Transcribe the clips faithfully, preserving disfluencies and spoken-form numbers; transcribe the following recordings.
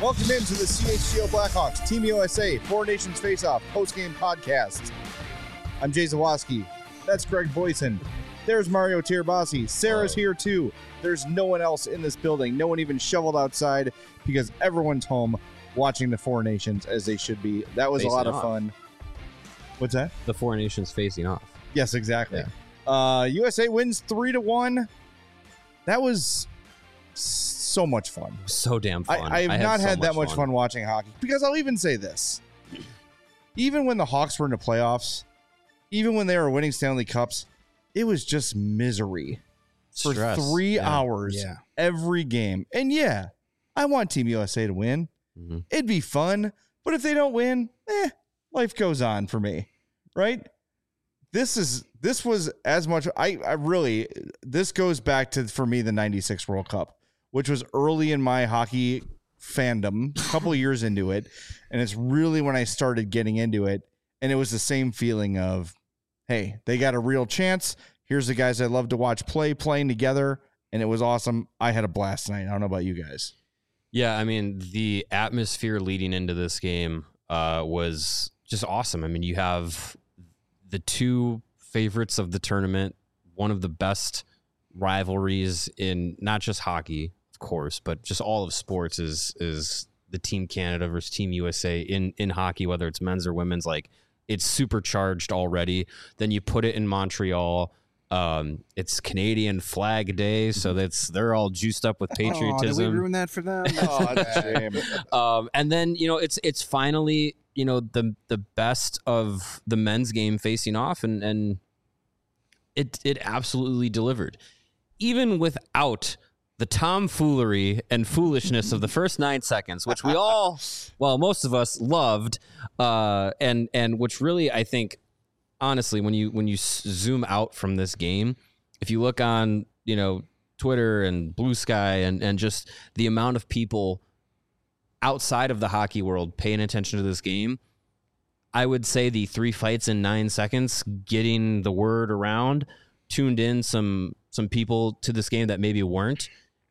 Welcome into the C H G O Blackhawks Team U S A Four Nations Face-Off post-game podcast. I'm Jay Zawoski. That's Greg Boyson. There's Mario Tirabassi. Sarah's here too. There's no one else in this building. No one even shoveled outside because everyone's home watching the Four Nations as they should be. That was Facing a lot of off. fun. What's that? The Four Nations facing off. Yes, exactly. Yeah. Uh, U S A wins three to one. That was so much fun. So damn fun. I, I have I not so had that much fun. fun watching hockey because I'll even say this. Even when the Hawks were in the playoffs, even when they were winning Stanley Cups, it was just misery for Stress. three Yeah. hours Yeah. every game. And yeah, I want Team U S A to win. Mm-hmm. It'd be fun. But if they don't win, eh, life goes on for me. Right? This is this was as much I, I really this goes back to for me the ninety-six World Cup, which was early in my hockey fandom, a couple of years into it, and it's really when I started getting into it, and it was the same feeling of, hey, they got a real chance. Here's the guys I love to watch play playing together, and it was awesome. I had a blast tonight. I don't know about you guys. Yeah, I mean, the atmosphere leading into this game uh, was just awesome. I mean, you have the two favorites of the tournament, one of the best rivalries in not just hockey, of course, but just all of sports is is the Team Canada versus Team U S A in, in hockey, whether it's men's or women's. Like, it's supercharged already. Then you put it in Montreal. Um, it's Canadian Flag Day, so that's they're all juiced up with patriotism. Oh, did we ruin that for them? Oh, that's a shame. Um, and then, you know, it's it's finally, you know, the the best of the men's game facing off, and and it it absolutely delivered, even without the tomfoolery and foolishness of the first nine seconds, which we all, well, most of us loved, uh, and and which really, I think, honestly, when you when you zoom out from this game, if you look on, you know, Twitter and Blue Sky and and just the amount of people outside of the hockey world paying attention to this game, I would say the three fights in nine seconds, getting the word around, tuned in some some people to this game that maybe weren't.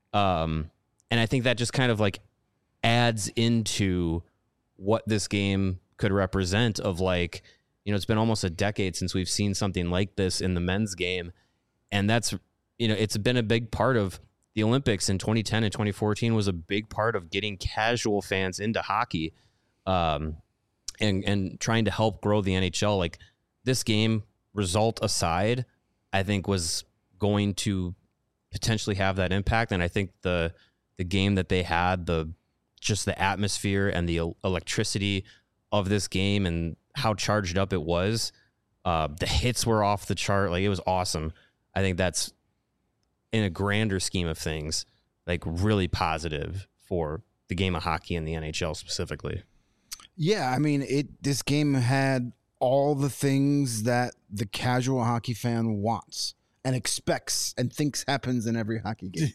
Um, and I think that just kind of like adds into what this game could represent of, like, you know, it's been almost a decade since we've seen something like this in the men's game. And that's, you know, it's been a big part of the Olympics in twenty ten and twenty fourteen was a big part of getting casual fans into hockey, um, and, and trying to help grow the N H L. Like, this game, result aside, I think was going to potentially have that impact. And I think the, the game that they had, the, just the atmosphere and the electricity of this game and how charged up it was, uh, the hits were off the chart. Like, it was awesome. I think that's, in a grander scheme of things, like, really positive for the game of hockey and the N H L specifically. Yeah, I mean, it. This game had all the things that the casual hockey fan wants and expects and thinks happens in every hockey game.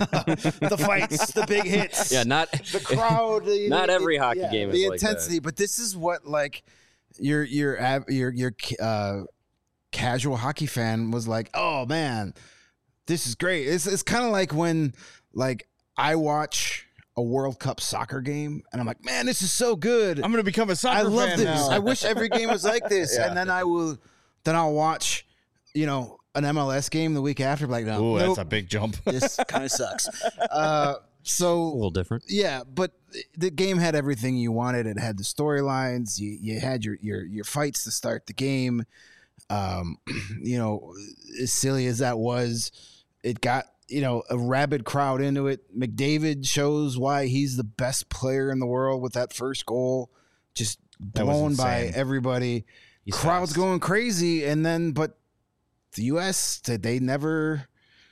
The fights, the big hits, Yeah, not the crowd. the- not the- every hockey yeah, game is the like intensity. But this is what, like, your your av- your your uh, casual hockey fan was like, oh man, this is great. It's it's kind of like when, like, I watch a World Cup soccer game and I'm like, man, this is so good. I'm going to become a soccer I love fan this. now. I wish every game was like this. Yeah. And then I will, then I'll watch, you know, an M L S game the week after. Like, no, Ooh, nope, that's a big jump. this kind of sucks. Uh, a so little different. yeah, but the game had everything you wanted. It had the storylines. You you had your your your fights to start the game. Um, you know, as silly as that was, it got, you know, a rabid crowd into it. McDavid shows why he's the best player in the world with that first goal, just That was blown by insane. everybody. He's Crowd's fast. going crazy, and then but the U S they never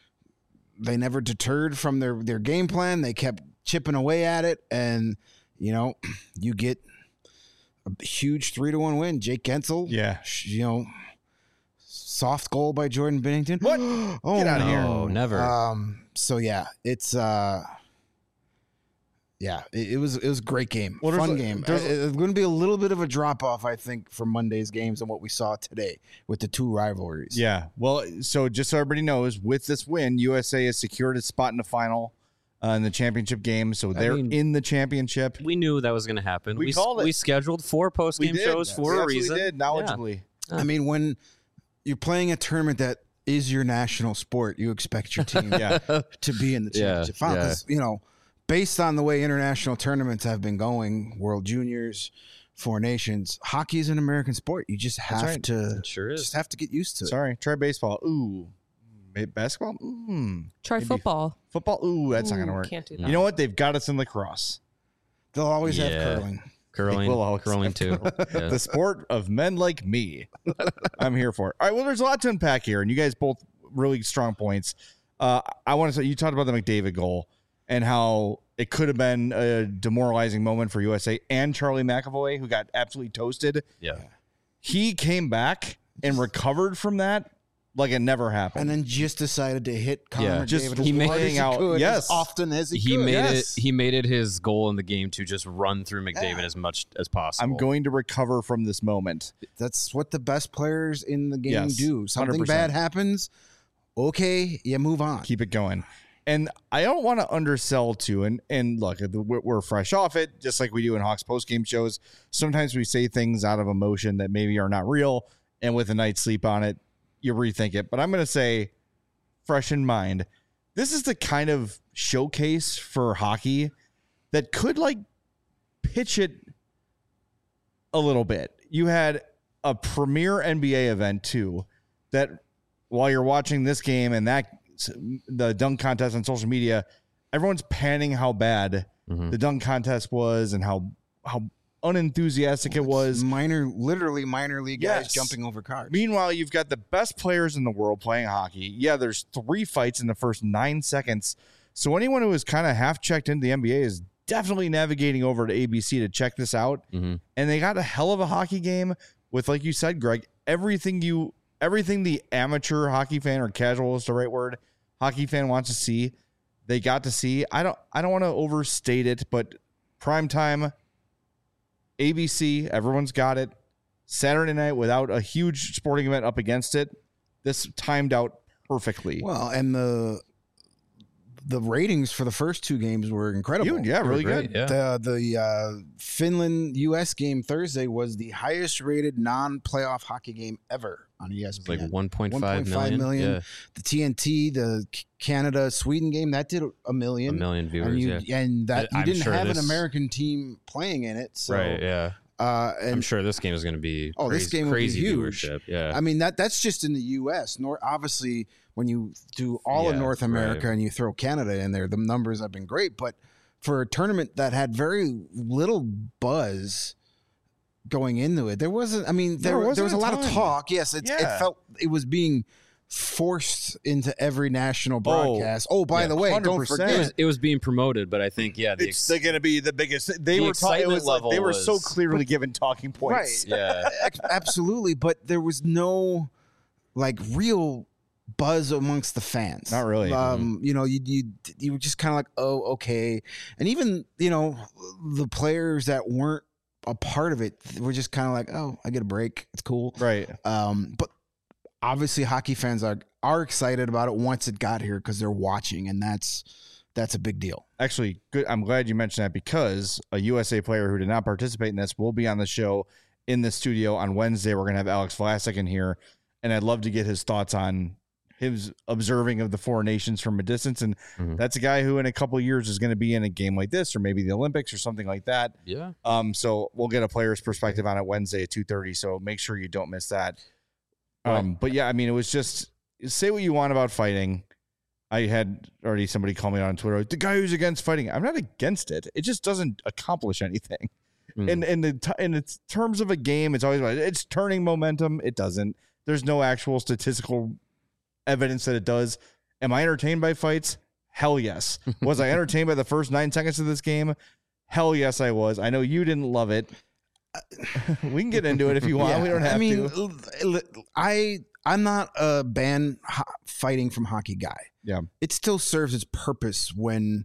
they never deterred from their their game plan. They kept chipping away at it, and you know, you get a huge three to one win. Jake Gensel, Yeah. you know, soft goal by Jordan Binnington. What? Oh, Get outta no. here. No, never. Um. So yeah, it's uh. Yeah, it, it was it was a great game, Well, there's fun a- game. there's- Uh, It's going to be a little bit of a drop off, I think, from Monday's games and what we saw today with the two rivalries. Yeah. Well, so just so everybody knows, with this win, U S A has secured its spot in the final. uh, in the championship game. So they're mean, in the championship. We knew that was going to happen. We We, called it. we scheduled four post game shows We for a absolutely reason. did, knowledgeably. I mean, when you're playing a tournament that is your national sport, you expect your team Yeah. to be in the Yeah, championship final. yeah. 'Cause, you know, based on the way international tournaments have been going, World Juniors, Four Nations, hockey is an American sport. You just have right. to It sure is. just have to get used to it. Sorry, try baseball. Ooh. Maybe basketball? Mm. Try Maybe football. Football? Ooh, that's not going to Ooh, work. Can't do No. that. You know what? They've got us in lacrosse. They'll always have Yeah. curling. Curling, They will always curling have too. Yeah. The sport of men like me. I'm here for it. All right. Well, there's a lot to unpack here, and you guys both really strong points. Uh, I want to say you talked about the McDavid goal and how it could have been a demoralizing moment for U S A and Charlie McAvoy, who got absolutely toasted. yeah. He came back and recovered from that like it never happened. And then just decided to hit Connor Yeah. McDavid Just as he hard made as he out- could, yes. as often as he, He could. made Yes. it. He made it his goal in the game to just run through McDavid Yeah. as much as possible. I'm going to recover from this moment. That's what the best players in the game Yes, do. Something one hundred percent. bad happens, okay, you move on. Keep it going. And I don't want to undersell too. And and look, we're we're fresh off it, just like we do in Hawks post game shows. Sometimes we say things out of emotion that maybe are not real, and with a night's sleep on it, you rethink it. But I'm going to say, fresh in mind, this is the kind of showcase for hockey that could like pitch it a little bit. You had a premier N B A event too, that while you're watching this game and that the dunk contest on social media, everyone's panning how bad Mhm. the dunk contest was and how how unenthusiastic it was. minor, literally minor league guys Yes. jumping over cars. Meanwhile, you've got the best players in the world playing hockey. Yeah, there's three fights in the first nine seconds. So anyone who is kind of half checked into the N B A is definitely navigating over to A B C to check this out. Mhm. And they got a hell of a hockey game with, like you said, Greg, everything you everything the amateur hockey fan or casual is the right word, hockey fan wants to see. They got to see. I don't I don't want to overstate it, but primetime A B C, everyone's got it. Saturday night without a huge sporting event up against it. This timed out perfectly. Well, and the the ratings for the first two games were incredible. Huge, yeah, really Great, good. Yeah. The the uh, Finland U S game Thursday was the highest rated non playoff hockey game ever on E S It's P N. like one point one five point five million. million. Yeah. The T N T, the Canada Sweden game that did a A million. million viewers. and you yeah. and that I- you I'm didn't sure have this- an American team playing in it. So, right. Yeah. Uh, and I'm sure this game is going to be Oh, crazy, this game will be crazy huge. viewership. Yeah. I mean that that's just in the U S. Nor obviously when you do all of Yeah, North America right. and you throw Canada in there, the numbers have been great. But for a tournament that had very little buzz going into it, there wasn't. I mean, there, There wasn't there was a a lot of ton. talk. Yes, it, Yeah. it felt it was being forced into every national broadcast. Oh, by yeah, the way, don't one hundred percent. it forget. was, it was being promoted, but I think yeah, the It's ex- going to be the biggest. They the were ta- it excitement was like level they were so was- clearly given talking points. Right. yeah. Ex- Absolutely, but there was no like real buzz amongst the fans. Not really. Um, you know, you you you were just kind of like, oh, okay, and even you know the players that weren't a part of it were just kind of like, oh, I get a break, it's cool. Right. Um, but obviously, hockey fans are are excited about it once it got here because they're watching, and that's that's a big deal. Actually, good. I'm glad you mentioned that because a U S A player who did not participate in this will be on the show in the studio on Wednesday. We're going to have Alex Vlasic in here, and I'd love to get his thoughts on his observing of the four nations from a distance. And Mhm. that's a guy who in a couple of years is going to be in a game like this or maybe the Olympics or something like that. Yeah. Um, so we'll get a player's perspective on it Wednesday at two thirty. So make sure you don't miss that. Um, but yeah, I mean, it was just say what you want about fighting. I had already somebody call me on Twitter, the guy who's against fighting. I'm not against it. It just doesn't accomplish anything. Mhm. And in the t- in its terms of a game, it's always about it's turning momentum. It doesn't. There's no actual statistical evidence that it does. Am I entertained by fights? Hell yes. Was I entertained by the first nine seconds of this game? Hell yes, I was. I know you didn't love it. We can get into it if you want. Yeah, We don't have I mean, to. l- l- I I'm not a ban ho- fighting from hockey guy. Yeah. It still serves its purpose when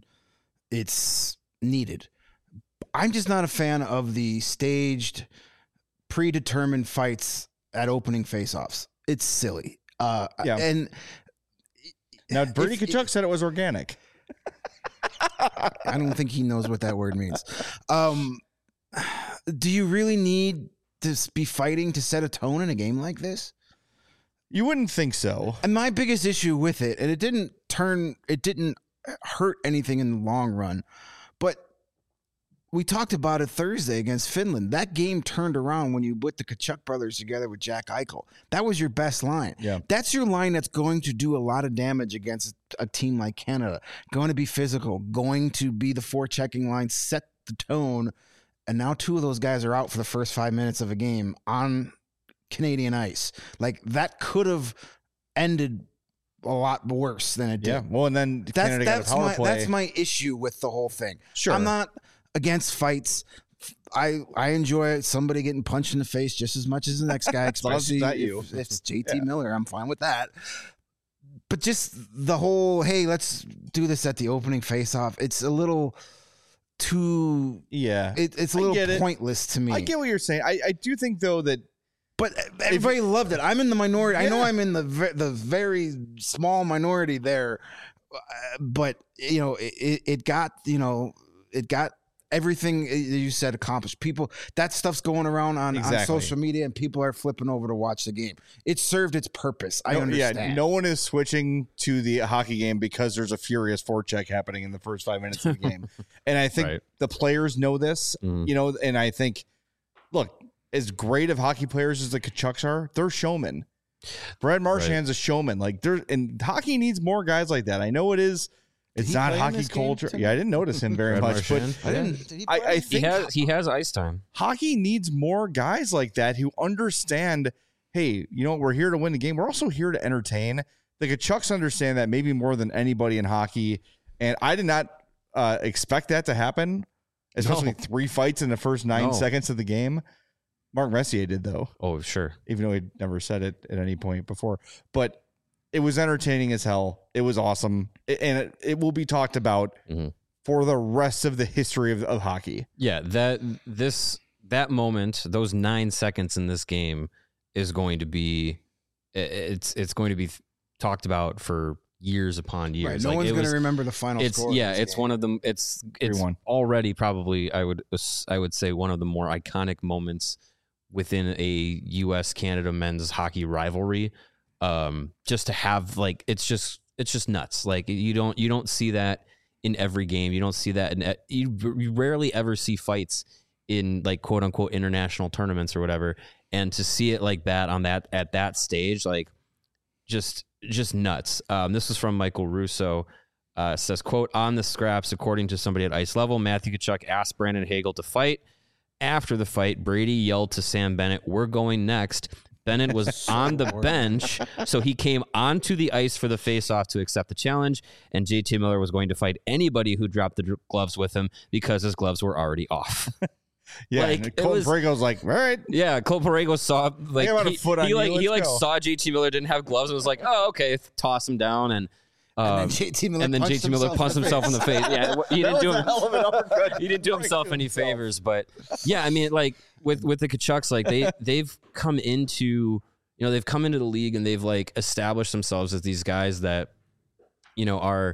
it's needed. I'm just not a fan of the staged, predetermined fights at opening face-offs. It's silly. Uh, Yeah. and Now, Bernie if- Kachuk said it was organic. I don't think he knows what that word means. Um, do you really need to be fighting to set a tone in a game like this? You wouldn't think so. And my biggest issue with it, and it didn't turn, it didn't hurt anything in the long run, but we talked about it Thursday against Finland. That game turned around when you put the Tkachuk brothers together with Jack Eichel. That was your best line. Yeah. That's your line that's going to do a lot of damage against a team like Canada. Going to be physical, going to be the forechecking line, set the tone. And now two of those guys are out for the first five minutes of a game on Canadian ice. Like, that could have ended a lot worse than it did. Yeah. Well, and then That's Canada that's got a power my play. that's my issue with the whole thing. Sure. I'm not against fights. I I enjoy somebody getting punched in the face just as much as the next guy, long as especially it's not if, you. if it's J T Yeah. Miller. I'm fine with that. But just the whole, hey, let's do this at the opening face-off. It's a little too. Yeah. It, it's a I little get it. pointless to me. I get what you're saying. I, I do think, though, that But everybody loved it. I'm in the minority. I know Yeah. I'm in the ve- the very small minority there, uh, but you know, it, it got you know, it got everything you said accomplished. People, that stuff's going around on, Exactly. on social media, and people are flipping over to watch the game. It served its purpose. I no, understand. Yeah, no one is switching to the hockey game because there's a furious forecheck happening in the first five minutes of the game. And I think Right. the players know this, Mhm. you know, and I think, look, as great of hockey players as the Kachucks are, they're showmen. Brad Marchand's a showman. Like, there, and hockey needs more guys like that. I know it is. It's he not play in hockey this game culture. tonight? Yeah, I didn't notice him very Brad much, Marchand. but I didn't. Did he I, play? I He think has he has ice time. hockey needs more guys like that who understand, hey, you know, we're here to win the game. We're also here to entertain. The Kachucks understand that maybe more than anybody in hockey. And I did not uh, expect that to happen, especially No. three fights in the first nine No. seconds of the game. Mark Messier did, though, Oh, sure. even though he'd never said it at any point before. But it was entertaining as hell. It was awesome. It- and it, it will be talked about Mhm. for the rest of the history of, of hockey. Yeah, that this that moment, those nine seconds in this game is going to be i- it's it's going to be talked about for years upon years. Right, no Like, one's it going to was- remember the final It's score. of yeah, this it's game. one of them. It's it's three one. already probably I would ass- I would say one of the more iconic moments within a U S Canada men's hockey rivalry. Um, just to have like it's just it's just nuts. Like you don't you don't see that in every game. You don't see that in you, you rarely ever see fights in like quote unquote international tournaments or whatever. And to see it like that on that at that stage, like just just nuts. Um, this was from Michael Russo. Uh, says, quote, on the scraps, according to somebody at ice level, Matthew Tkachuk asked Brandon Hagel to fight. After the fight, Brady yelled to Sam Bennett, we're going next. Bennett was on the bench, so he came onto the ice for the face-off to accept the challenge, and J T Miller was going to fight anybody who dropped the dr- gloves with him because his gloves were already off. Yeah, Like, and it Colton was- Parayko's like, all right. Yeah, Cole Parayko saw like got a he, foot on he you, like he let's like go. saw J T Miller didn't have gloves and was like, oh okay, toss him down and. And Um, then J T Miller and then punched J T Miller himself punched in the himself in the face. Yeah, he That didn't do was a him. hell of an uppercut. He didn't do himself Right to any himself. favors, but yeah, I mean, like with with the Kachucks, like they they've come into you know they've come into the league and they've like established themselves as these guys that you know are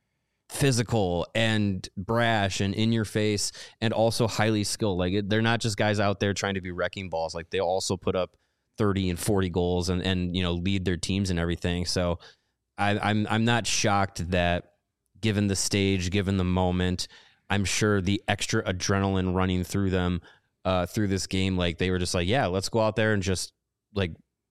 physical and brash and in your face and also highly skilled. Like it, they're not just guys out there trying to be wrecking balls. Like they also put up thirty and forty goals and and you know lead their teams and everything. So I, I'm I'm not shocked that given the stage, given the moment, I'm sure the extra adrenaline running through them uh, through this game, like they were just like, yeah, let's go out there and just like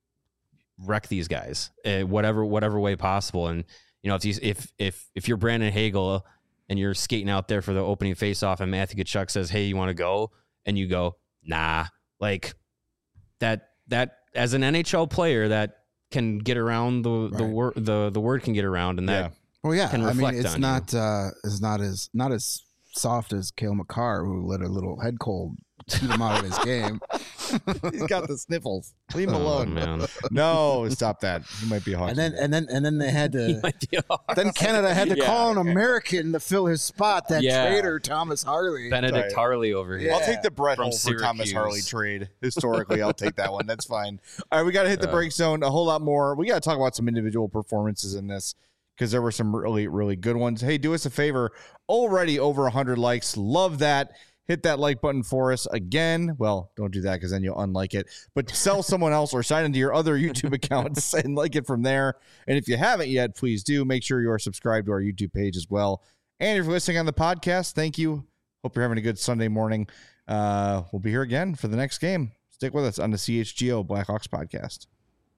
wreck these guys, uh, whatever whatever way possible. And you know, if you, if if if you're Brandon Hagel and you're skating out there for the opening faceoff, and Matthew Tkachuk says, "Hey, you want to go?" and you go, "Nah," like that that as an N H L player that can get around the the Right. word the the word can get around, and that Yeah. Well, yeah, can I mean, reflect it's on you. not uh, it's not as not as soft as Cale Makar, who let a little head cold keep him out of his game. He's got the sniffles. Leave him Oh, alone. man. No, stop that. He might be a hockey. And then and then and then they had He to. might be a- Then Canada had to Yeah. call an American to fill his spot. That Yeah. traitor Thomas Harley. Benedict Right. Harley over here. I'll Yeah. take the Brett From Hull for Thomas Syracuse. Harley trade. Historically, I'll take that one. That's fine. All right, we got to hit the Uh, break zone a whole lot more. We got to talk about some individual performances in this. because there were some really, really good ones. Hey, do us a favor. Already over one hundred likes. Love that. Hit that like button for us again. Well, don't do that because then you'll unlike it. But sell someone else or sign into your other YouTube accounts and like it from there. And if you haven't yet, please do. Make sure you are subscribed to our YouTube page as well. And if you're listening on the podcast, thank you. Hope you're having a good Sunday morning. Uh, we'll be here again for the next game. Stick with us on the C H G O Blackhawks podcast.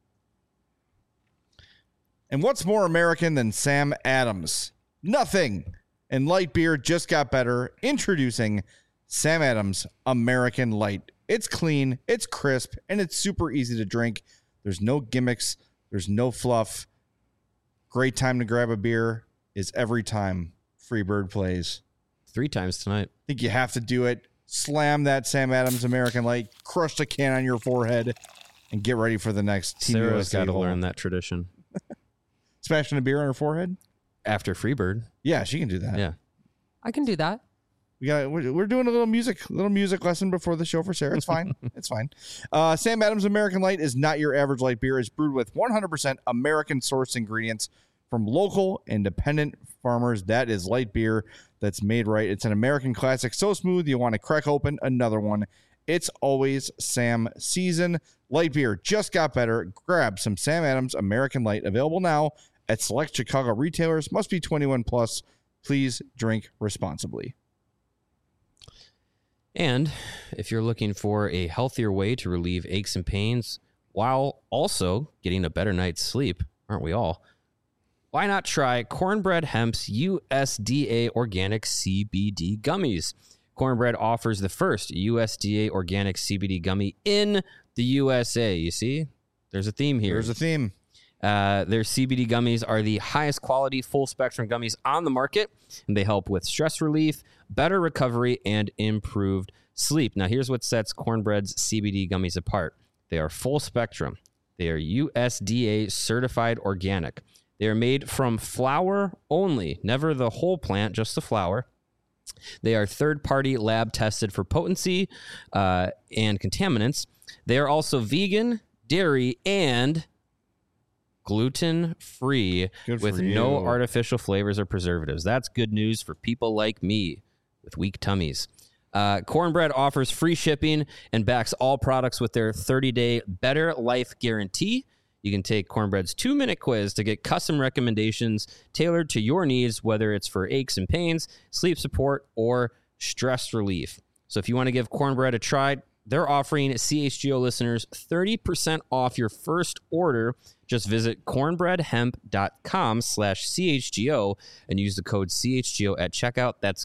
And what's more American than Sam Adams? Nothing. And light beer just got better. Introducing Sam Adams American Light. It's clean, it's crisp, and it's super easy to drink. There's no gimmicks. There's no fluff. Great time to grab a beer is every time Freebird plays. Three times tonight. I think you have to do it. Slam that Sam Adams American Light. Crush the can on your forehead. And get ready for the next Team Sarah's U S A got to hole. learn that tradition. Smashing a beer on her forehead? After Freebird. Yeah, she can do that. Yeah. I can do that. We got. We're, we're doing a little music, little music lesson before the show for Sarah. It's fine. It's fine. Uh, Sam Adams American Light is not your average light beer. It's brewed with one hundred percent American sourced ingredients from local independent farmers. That is light beer that's made right. It's an American classic, so smooth you want to crack open another one. It's always Sam season. Light beer just got better. Grab some Sam Adams American Light, available now at select Chicago retailers. Must be twenty-one plus. Please drink responsibly. And if you're looking for a healthier way to relieve aches and pains while also getting a better night's sleep, aren't we all? Why not try Cornbread Hemp's U S D A organic C B D gummies? Cornbread offers the first U S D A organic C B D gummy in the U S A. You see, there's a theme here. There's a theme. Uh, their C B D gummies are the highest quality full spectrum gummies on the market, and they help with stress relief, better recovery, and improved sleep. Now, here's what sets Cornbread's C B D gummies apart. They are full spectrum. They are U S D A certified organic. They are made from flower only, never the whole plant, just the flower. They are third-party lab tested for potency uh, and contaminants. They are also vegan, dairy, and gluten-free Good with for no you. artificial flavors or preservatives. That's good news for people like me with weak tummies. Uh, Cornbread offers free shipping and backs all products with their thirty-day Better Life Guarantee. You can take Cornbread's two-minute quiz to get custom recommendations tailored to your needs, whether it's for aches and pains, sleep support, or stress relief. So if you want to give Cornbread a try, they're offering C H G O listeners thirty percent off your first order. Just visit cornbreadhemp.com slash CHGO and use the code C H G O at checkout. That's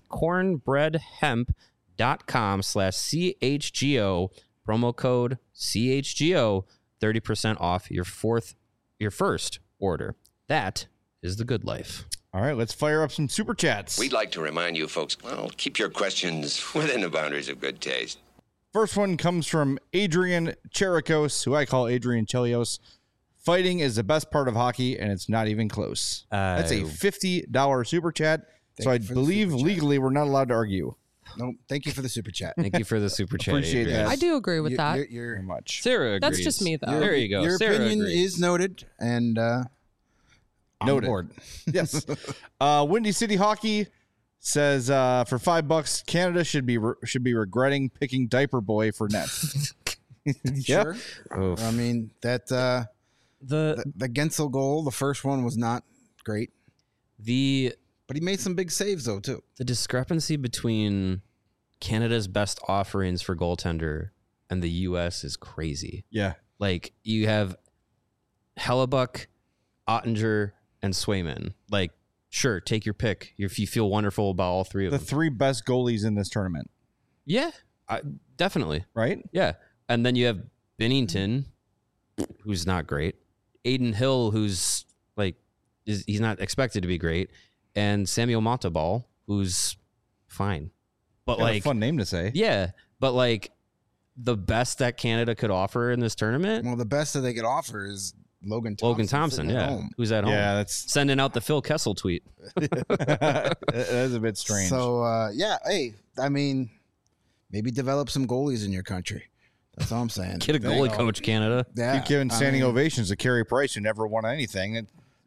cornbreadhemp.com slash CHGO, promo code C H G O, thirty percent off your fourth, your first order. That is the good life. All right, let's fire up some super chats. We'd like to remind you folks, well, keep your questions within the boundaries of good taste. First one comes from Adrian Cherikos, who I call Adrian Chelios. Fighting is the best part of hockey, and it's not even close. Uh, That's a fifty dollars super chat. Thank So I you for the believe super chat. legally we're not allowed to argue. No, thank you for the super chat. Thank you for the super chat. Appreciate Adrian. that. I do agree with You- that. You're, you're, Very much. Sarah That's agrees. just me, though. There you go. Your Sarah opinion agrees. is noted and uh, on Noted. board. Yes. uh, Windy City Hockey says uh, for five bucks, Canada should be re- should be regretting picking Diaper Boy for net. Yeah. Sure. Oof. I mean, that uh, The the, the Gensel goal, the first one was not great, the but he made some big saves though too. the discrepancy between Canada's best offerings for goaltender and the U S is crazy. Yeah. Like you have Hellebuck, Ottinger, and Swayman. Like, sure, take your pick if you feel wonderful about all three of The them. three best goalies in this tournament, yeah, I, definitely. right? Yeah, and then you have Binnington, who's not great. Aiden Hill, who's like, is he's not expected to be great, and Samuel Montabal, who's fine, but Got a like, fun name to say. yeah, but like, the best that Canada could offer in this tournament, Well, the best that they could offer is Logan Thompson. Logan Thompson, sitting at yeah, home. who's at home, Yeah, that's sending out the Phil Kessel tweet. that is a bit strange. So uh, yeah, hey, I mean, maybe develop some goalies in your country. That's all I'm saying. Get a There you goalie go. coach, Canada. Yeah, Keep giving I standing mean, ovations to Carey Price, who never won anything. It,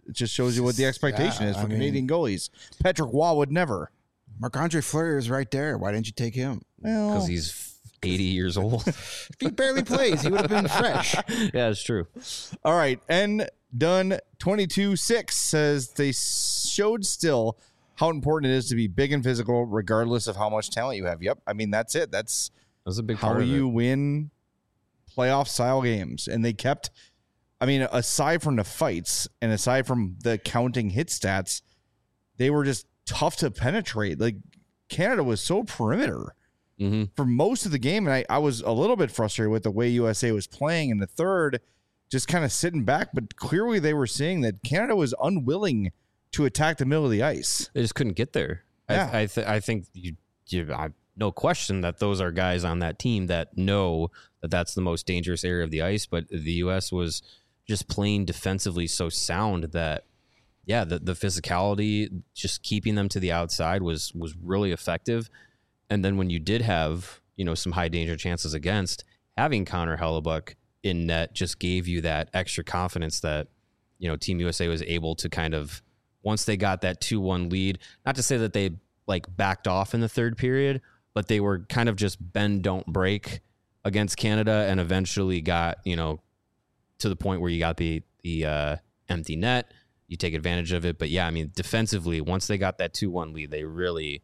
It just shows you what the expectation Yeah, is for I mean- Canadian goalies. Patrick Waugh would never. Marc-Andre Fleury is right there. Why didn't you take him? Well, Because he's eighty years old. If he barely plays, he would have been fresh. Yeah, it's true. all right. And done twenty-two six says they showed still how important it is to be big and physical, regardless of how much talent you have. Yep. I mean, that's it. That's That's a big how part of you it. win playoff style games. And they kept, I mean, aside from the fights and aside from the counting hit stats, they were just tough to penetrate. Like Canada was so perimeter Mm-hmm. for most of the game. And I, I was a little bit frustrated with the way U S A was playing in the third, just kind of sitting back. But clearly they were seeing that Canada was unwilling to attack the middle of the ice. They just couldn't get there. Yeah. I I, th- I think you, you I, no question that those are guys on that team that know that that's the most dangerous area of the ice. But the U S was just playing defensively so sound that, yeah, the, the physicality, just keeping them to the outside was was really effective. And then when you did have, you know, some high danger chances against, having Connor Hellebuck in net just gave you that extra confidence that, you know, Team U S A was able to kind of, once they got that two one lead, not to say that they like backed off in the third period, but they were kind of just bend, don't break against Canada, and eventually got, you know, to the point where you got the, the uh, empty net, you take advantage of it. But yeah, I mean, defensively, once they got that two one lead, they really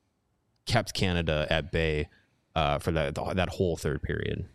kept Canada at bay uh, for that that whole third period.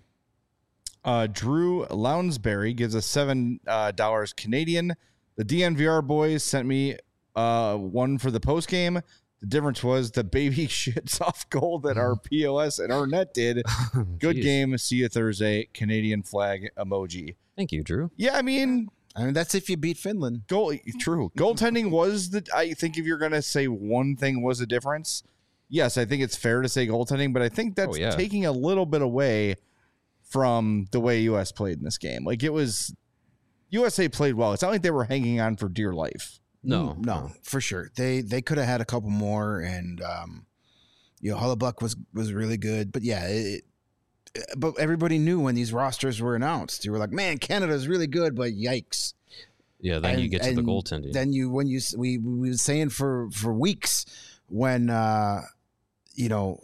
Uh, Drew Lounsbury gives us seven uh, dollars Canadian. The D N V R boys sent me uh, one for the post game. The difference was the baby shit soft goal that our P O S and our net did. Good Jeez. game. See you Thursday. Canadian flag emoji. Thank you, Drew. Yeah, I mean, I mean, that's if you beat Finland. goal. True. Goaltending was the. I think if you're gonna say one thing was a difference, yes, I think it's fair to say goaltending, but I think that's Oh, yeah. taking a little bit away from the way U S played in this game. Like it was, U S A played well. It's not like they were hanging on for dear life. No, Mm, no, for sure. They they could have had a couple more, and um, you know, Hellebuck was was really good. But yeah, it, but everybody knew when these rosters were announced. You were like, man, Canada's really good, but yikes. Yeah, then you And- get to the and goaltending. Then you when you s- we we were saying for for weeks when uh, you know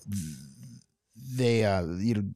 they uh, you know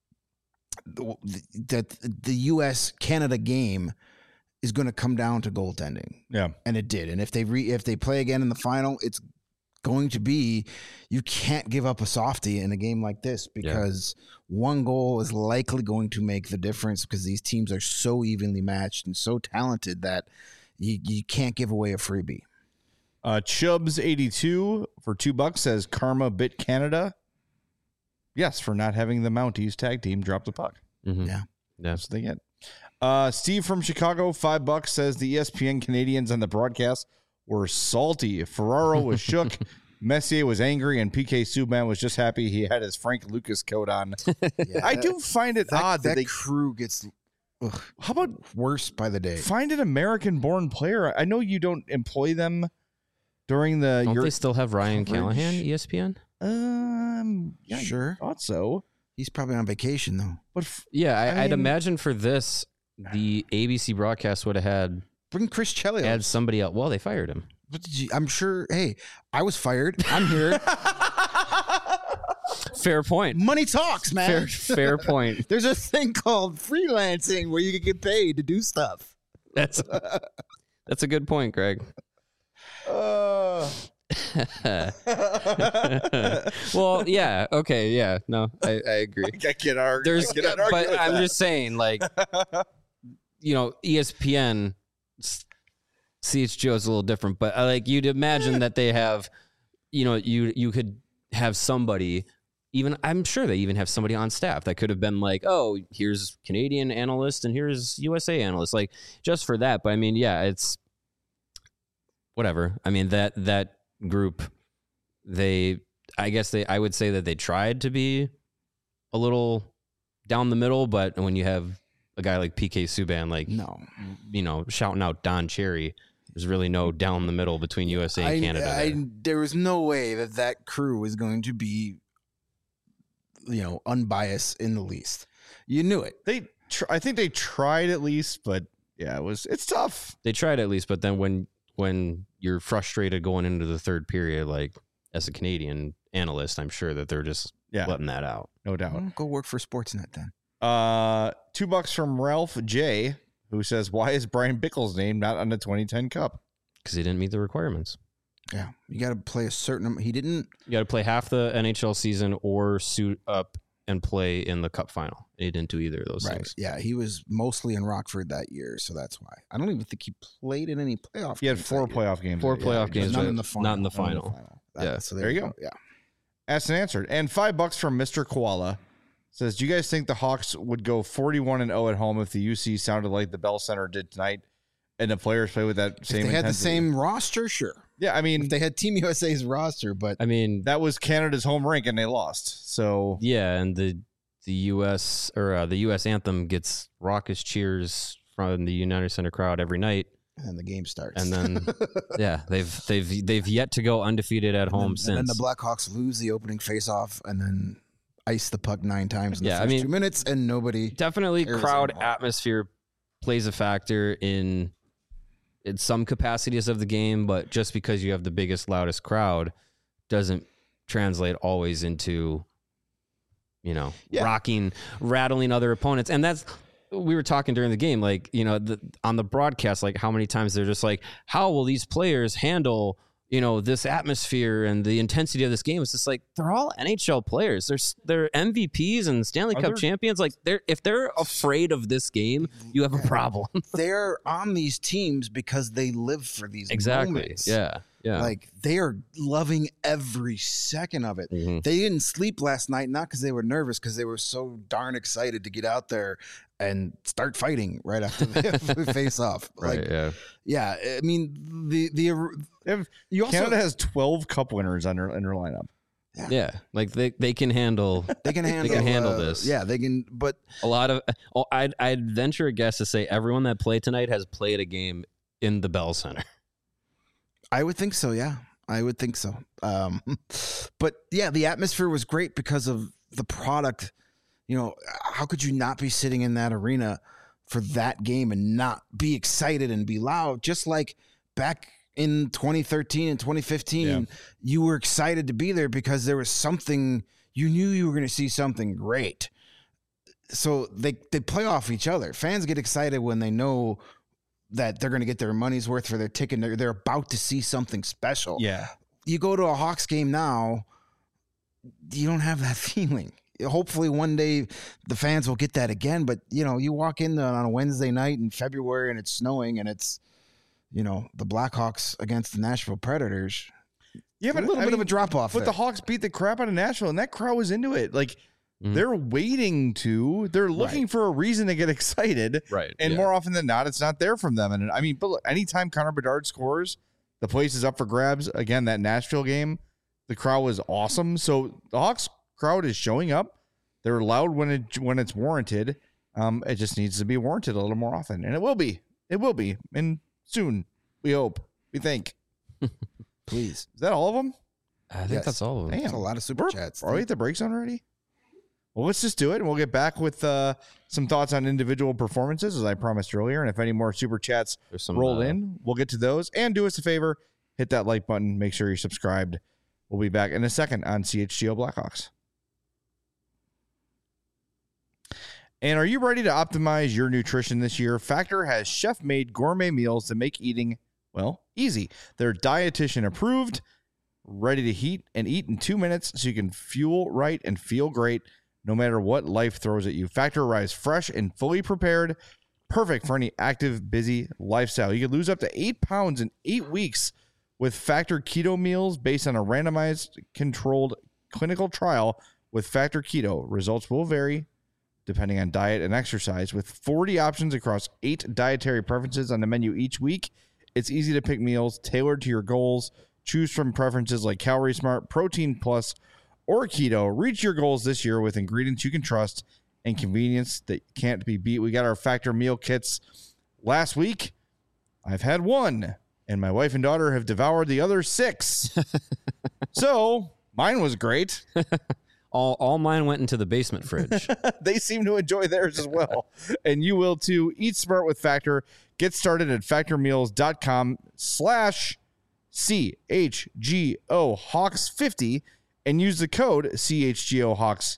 that the U S Canada game is going to come down to goaltending. Yeah. And it did. And if they re, if they play again in the final, it's going to be, you can't give up a softie in a game like this, because one goal is likely going to make the difference, because these teams are so evenly matched and so talented that you, you can't give away a freebie. Uh, Chubbs eighty-two for two bucks says Karma bit Canada. Yes, for not having the Mounties tag team drop the puck. Mhm. Yeah. Yeah. That's what they get. Uh, Steve from Chicago, five bucks, says the E S P N Canadians on the broadcast were salty. Ferraro was shook. Messier was angry, and P K Subban was just happy he had his Frank Lucas coat on. Yeah, I that- do find it that, odd that, that they crew gets ugh, how about worse by the day. find an American-born player. I know you don't employ them during the. Don't your, they still have Ryan coverage. Callahan, E S P N? um, yeah, Sure. I thought so. He's probably on vacation though. But f- Yeah, I, I I'd mean- imagine for this, the A B C broadcast would have had Bring Chris Chelios. had somebody else. Well, they fired him. What did you, I'm sure. Hey, I was fired. I'm here. Fair point. Money talks, Fair, man. fair point. There's a thing called freelancing where you can get paid to do stuff. That's that's a good point, Greg. uh, Well, yeah, okay, yeah, no, I, I agree. I can't argue. There's, I cannot argue but with I'm that. just saying, like, you know, E S P N, C H G O is a little different, but uh, like you'd imagine that they have, you know, you you could have somebody. Even I'm sure they even have somebody on staff that could have been like, oh, here's Canadian analyst and here's U S A analyst, like just for that. But I mean, yeah, it's whatever. I mean that that group, they, I guess they, I would say that they tried to be a little down the middle, but when you have a guy like P K Subban, like No. you know, shouting out Don Cherry, there's really no down the middle between U S A and I, Canada. I, there. there was no way that that crew was going to be, you know, unbiased in the least. You knew it. They, tr- I think they tried at least, but yeah, it was. It's tough. They tried at least, but then when when you're frustrated going into the third period, like as a Canadian analyst, I'm sure that they're just Yeah, letting that out. no doubt. Well, go work for Sportsnet then. Uh, two bucks from Ralph J, who says, "Why is Brian Bickle's name not on the twenty ten Cup?" Because he didn't meet the requirements. Yeah, you got to play a certain. He didn't. You got to play half the N H L season or suit up and play in the Cup final. He didn't do either of those Right. things. Yeah, he was mostly in Rockford that year, so that's why. I don't even think he played in any playoff. He had games four that year. playoff games. Four that year. playoff Just games, not but in the final. not in the not in the final. final. That- Yeah. so There you go. Yeah. Asked and answered. And five bucks from Mister Koala says, "Do you guys think the Hawks would go forty-one and oh at home if the U C sounded like the Bell Center did tonight, and the players play with that If same? they had the intensity?" same roster, sure. Yeah, I mean, If they had Team U S A's roster, but I mean, that was Canada's home rink, and they lost. So yeah, and the the U S or uh, the U S anthem gets raucous cheers from the United Center crowd every night, and then the game starts. and then yeah, they've they've they've yet to go undefeated at And home then, since. And then the Blackhawks lose the opening faceoff and then ice the puck nine times in the Yeah, I first mean- two minutes, and nobody. Definitely, cares crowd anymore. atmosphere plays a factor in in some capacities of the game, but just because you have the biggest, loudest crowd doesn't translate always into, you know, Yeah. rocking, rattling other opponents. And that's, we were talking during the game, like, you know, the, on the broadcast, like how many times they're just like, how will these players handle, you know, this atmosphere and the intensity of this game? It's just like, they're all N H L players. They're, s- they're M V Ps and Stanley Are Cup there- champions. Like, they're, if they're afraid of this game, you have a problem. They're on these teams because they live for these Exactly. moments. Yeah. Yeah. Like they are loving every second of it. Mhm. They didn't sleep last night, not because they were nervous, because they were so darn excited to get out there and start fighting right after the face off. Right. Like, yeah. yeah, I mean the the they have- you also Canada has twelve Cup winners on their, in their lineup. Yeah. Like they, they can handle they can handle handle uh, this. Yeah, they can. But a lot of, oh, I'd, I'd venture a guess to say everyone that played tonight has played a game in the Bell Center. I would think so. Yeah, I would think so. Um, but yeah, the atmosphere was great because of the product. You know, how could you not be sitting in that arena for that game and not be excited and be loud? Just like back in twenty thirteen and twenty fifteen, Yeah. you were excited to be there because there was something, you knew you were going to see something great. So they, they play off each other. Fans get excited when they know that they're going to get their money's worth for their ticket. They're, they're about to see something special. Yeah, You go to a Hawks game now, you don't have that feeling. Hopefully one day the fans will get that again. But, you know, you walk in on a Wednesday night in February and it's snowing and it's, you know, the Blackhawks against the Nashville Predators. yeah, A but little I bit of mean, a drop off. But the Hawks beat the crap out of Nashville, and that crowd was into it. Like Mhm. they're waiting to. They're looking for a reason to get excited. Right. And yeah. more often than not, it's not there from them. And I mean, but look, anytime Connor Bedard scores, the place is up for grabs. Again, that Nashville game, the crowd was awesome. So the Hawks crowd is showing up. They're loud when it when it's warranted. Um, it just needs to be warranted a little more often, and it will be. It will be, and soon. We hope. We think. Please. Is that all of them? I think Yes. that's all of them. Damn. That's a lot of super We're- chats. Are we at the break zone already? Well, let's just do it, and we'll get back with uh, some thoughts on individual performances, as I promised earlier. And if any more super chats There's some roll uh, in, we'll get to those. And do us a favor, hit that like button. Make sure you're subscribed. We'll be back in a second on C H G O Blackhawks. And are you ready to optimize your nutrition this year? Factor has chef-made gourmet meals to make eating, well, easy. They're dietitian approved, ready to heat and eat in two minutes so you can fuel right and feel great no matter what life throws at you. Factor arrives fresh and fully prepared, perfect for any active, busy lifestyle. You can lose up to eight pounds in eight weeks with Factor Keto meals based on a randomized, controlled clinical trial with Factor Keto. Results will vary depending on diet and exercise, with forty options across eight dietary preferences on the menu each week. It's easy to pick meals tailored to your goals. Choose from preferences like Calorie Smart, Protein Plus, or Keto. Reach your goals this year with ingredients you can trust and convenience that can't be beat. We got our Factor meal kits last week. I've had one, and my wife and daughter have devoured the other six. So mine was great. All, all mine went into the basement fridge. They seem to enjoy theirs as well. And you will too. Eat smart with Factor. Get started at factormeals.com slash CHGO Hawks fifty and use the code C H G O Hawks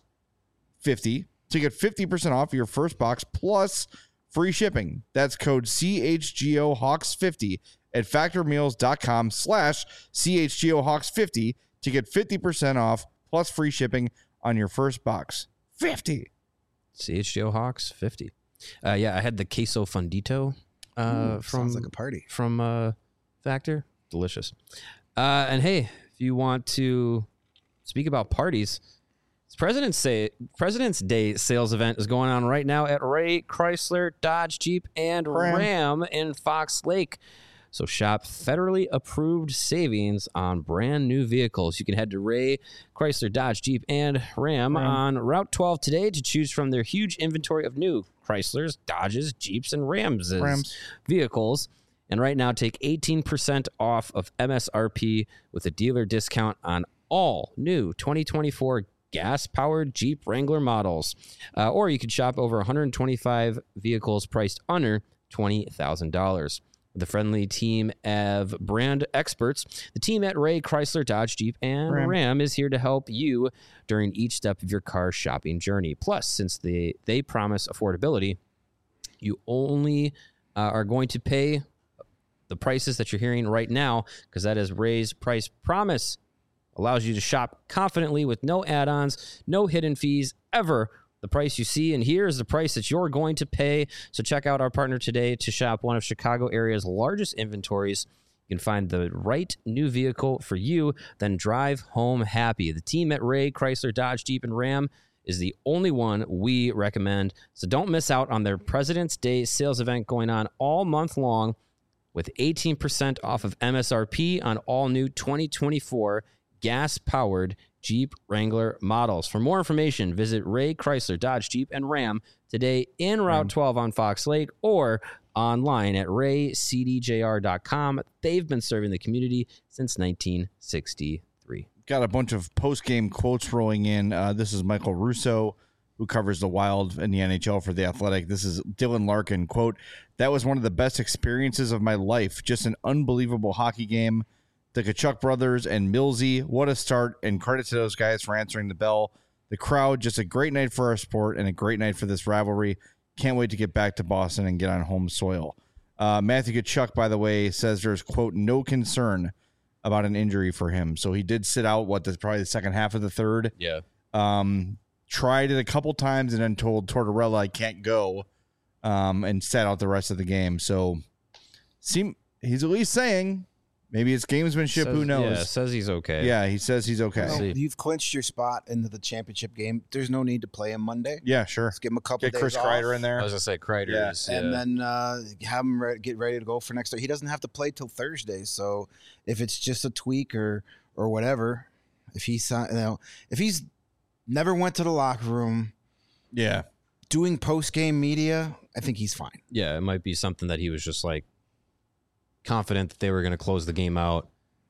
fifty to get fifty percent off your first box plus free shipping. That's code C H G O Hawks fifty at factormeals.com slash C H G O Hawks fifty to get fifty percent off plus free shipping on your first box. fifty C H G O Hawks fifty. Uh, yeah, I had the queso fundito uh, Ooh, from sounds like a party. from uh, Factor. Delicious. Uh, and hey, if you want to speak about parties, it's President's Day. President's Day sales event is going on right now at Ray Chrysler, Dodge, Jeep, and Ram. Ram in Fox Lake. So shop federally approved savings on brand new vehicles. You can head to Ray Chrysler, Dodge, Jeep, and Ram, Ram. on Route twelve today to choose from their huge inventory of new Chryslers, Dodges, Jeeps, and Rams, Rams. vehicles. And right now, take eighteen percent off of M S R P with a dealer discount on all new twenty twenty-four gas-powered Jeep Wrangler models. Uh, or you could shop over one hundred twenty-five vehicles priced under twenty thousand dollars. The friendly team of brand experts, the team at Ray Chrysler, Dodge, Jeep, and Ram. Ram is here to help you during each step of your car shopping journey. Plus, since they, they promise affordability, you only uh, are going to pay the prices that you're hearing right now, because that is Ray's price promise. Allows you to shop confidently with no add-ons, no hidden fees ever. The price you see and hear is the price that you're going to pay. So check out our partner today to shop one of Chicago area's largest inventories. You can find the right new vehicle for you, then drive home happy. The team at Ray Chrysler, Dodge, Jeep, and Ram is the only one we recommend. So don't miss out on their President's Day sales event going on all month long, with eighteen percent off of M S R P on all new twenty twenty-four gas-powered Jeep Wrangler models. For more information, visit Ray Chrysler, Dodge, Jeep, and Ram today in Route Ram. twelve on Fox Lake or online at ray c d j r dot com. They've been serving the community since nineteen sixty-three. Got a bunch of post-game quotes rolling in. Uh, this is Michael Russo, who covers the Wild in the N H L for The Athletic. This is Dylan Larkin, quote, "That was one of the best experiences of my life. Just an unbelievable hockey game. The Tkachuk brothers and Millsy, what a start, and credit to those guys for answering the bell. The crowd, just a great night for our sport and a great night for this rivalry. Can't wait to get back to Boston and get on home soil." Uh, Matthew Tkachuk, by the way, says there's, quote, "no concern about an injury for him." So he did sit out, what, that's probably the second half of the third. Yeah. Um, tried it a couple times and then told Tortorella I can't go, um, and sat out the rest of the game. So seem he's at least saying maybe it's gamesmanship. Says, Who knows? Yeah, says he's okay. Yeah, he says he's okay. Well, See. you've clinched your spot into the championship game. There's no need to play him Monday. Yeah, sure. Let's give him a couple Get days Chris off, Kreider in there. I was going to say Kreider's. and then uh, have him re- get ready to go for next. He doesn't have to play till Thursday. So if it's just a tweak or or whatever, if he's you know if he's never went to the locker room Yeah. doing post game media, I think he's fine. Yeah, it might be something that he was just like confident that they were going to close the game out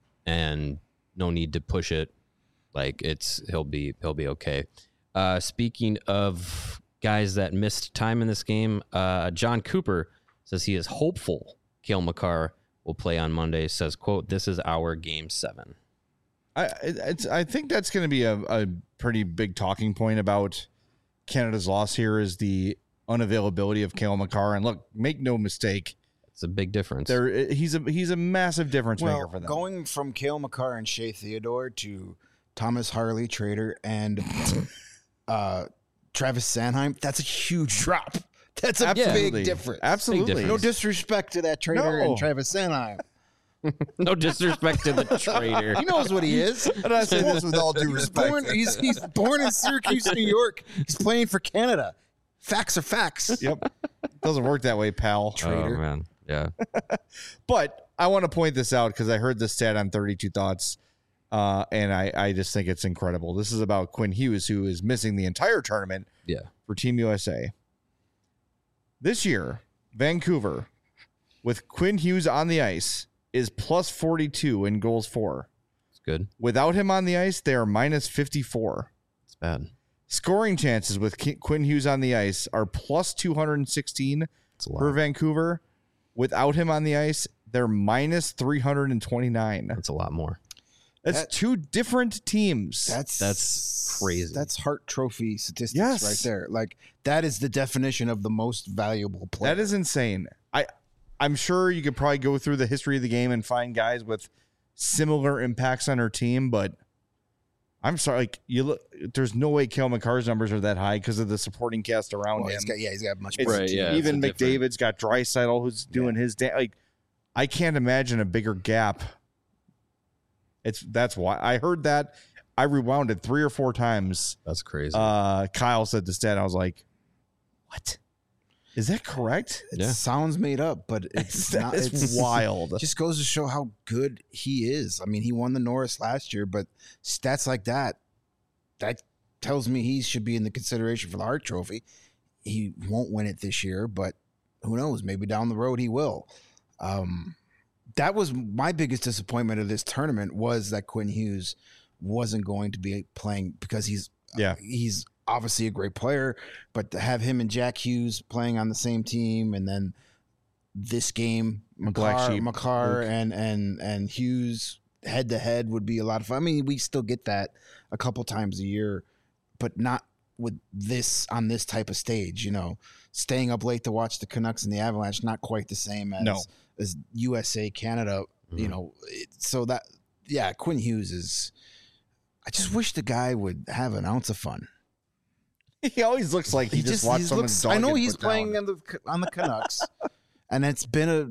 and no need to push it. Like it's he'll be he'll be okay. Uh, speaking of guys that missed time in this game, uh, John Cooper says he is hopeful Cale Makar will play on Monday. Says, quote, "This is our game seven." I it's I think that's going to be a, a pretty big talking point about Canada's loss here is the unavailability of Cale Makar. And look, make no mistake, It's a big difference. there he's a he's a massive difference maker Well, for them. going from Cale Makar and Shea Theodore to Thomas Harley Trader and uh, Travis Sanheim, that's a huge drop. That's a Absolutely. big difference. Absolutely. Big No difference. disrespect to that Trader No. and Travis Sanheim. No disrespect to the trader. He knows what he is. And I say this with all due He's respect. born, he's, he's born in Syracuse, New York. He's playing for Canada. Facts are facts. Yep. Doesn't work that way, pal. Oh, Trader. man. Yeah. But I want to point this out because I heard this stat on thirty-two Thoughts, uh, and I, I just think it's incredible. This is about Quinn Hughes, who is missing the entire tournament Yeah. for Team U S A. This year, Vancouver, with Quinn Hughes on the ice, is plus forty-two in goals for. It's good. Without him on the ice, they are minus fifty-four. It's bad. Scoring chances with Ki- Quinn Hughes on the ice are plus two hundred sixteen It's a lot. for Vancouver. Without him on the ice, they're minus three hundred twenty-nine. That's a lot more. That's That- two different teams. That's That's crazy. That's Hart Trophy statistics Yes. right there. Like that is the definition of the most valuable player. That is insane. I, I'm sure you could probably go through the history of the game and find guys with similar impacts on our team, but I'm sorry, like you look, there's no way Cale Makar's numbers are that high because of the supporting cast around Well, him. he's got, yeah, he's got much It's- more. Right, yeah. even it's a different- McDavid's got Draisaitl who's doing his da- like. I can't imagine a bigger gap. It's that's why I heard that. I rewound it three or four times. That's crazy. Uh, Kyle said the stat. I was like, "What? Is that correct?" It Yeah. sounds made up, but it's not. It's It's wild. It just goes to show how good he is. I mean, he won the Norris last year, but stats like that, that tells me he should be in the consideration for the Hart Trophy. He won't win it this year, but who knows? Maybe down the road he will. Um, that was my biggest disappointment of this tournament was that Quinn Hughes wasn't going to be playing because he's Yeah. he's obviously a great player, but to have him and Jack Hughes playing on the same team, and then this game, Black Makar, Sheep, Makar Luke. and and and Hughes head to head would be a lot of fun. I mean, we still get that a couple times a year, but not with this on this type of stage. You know, staying up late to watch the Canucks and the Avalanche, not quite the same as No. as U S A Canada. You Mhm. know, it, so that yeah, Quinn Hughes is. I just wish the guy would have an ounce of fun. He always looks like he, just, watched he someone. looks- I know he's playing on the on the Canucks, and it's been a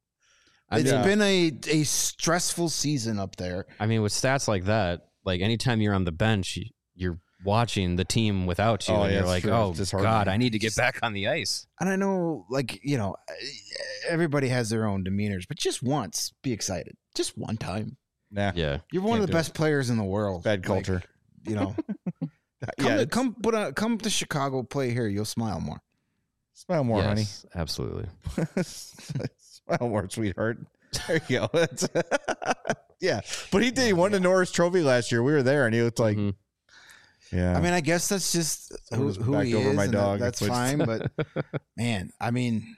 I it's mean, been a a stressful season up there. I mean, with stats like that, like anytime you're on the bench, you- you're watching the team without you, Oh, and yeah, you're it's like, true. oh It's disheartening. God, I need to get back on the ice. And I know, like you know, everybody has their own demeanors, but just once, be excited, just one time. Nah, Yeah, You're one Can't of the do best players in the world. bad Like, culture. you know. Come, yeah, to, it's- come, put a, come to Chicago, play here. You'll smile more. smile more, yes, absolutely. honey. Smile more, sweetheart. There you go. That's- yeah, but he did. He won the Norris Trophy last year. We were there, and he looked like, Mhm. yeah. I mean, I guess that's just who, Someone's who backed he over is. my and that- dog, that's which- fine, but man, I mean,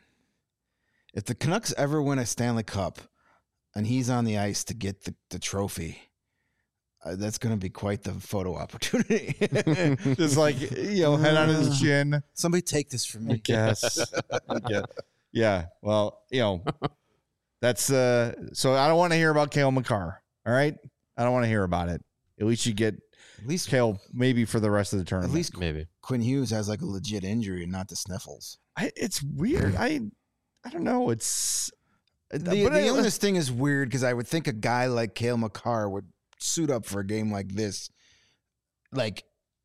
if the Canucks ever win a Stanley Cup and he's on the ice to get the, the trophy, uh, that's going to be quite the photo opportunity. just like you know, head on his chin. Somebody take this from I me. guess. yeah. Yeah. Well, you know, that's uh. So I don't want to hear about Cale Makar. All right, I don't want to hear about it. At least you get At least, Cale maybe for the rest of the at tournament. least Maybe. Quinn Hughes has like a legit injury and not the sniffles. I, it's weird. I I don't know. It's The, but the I- illness thing is weird because I would think a guy like Cale Makar would suit up for a game like this, like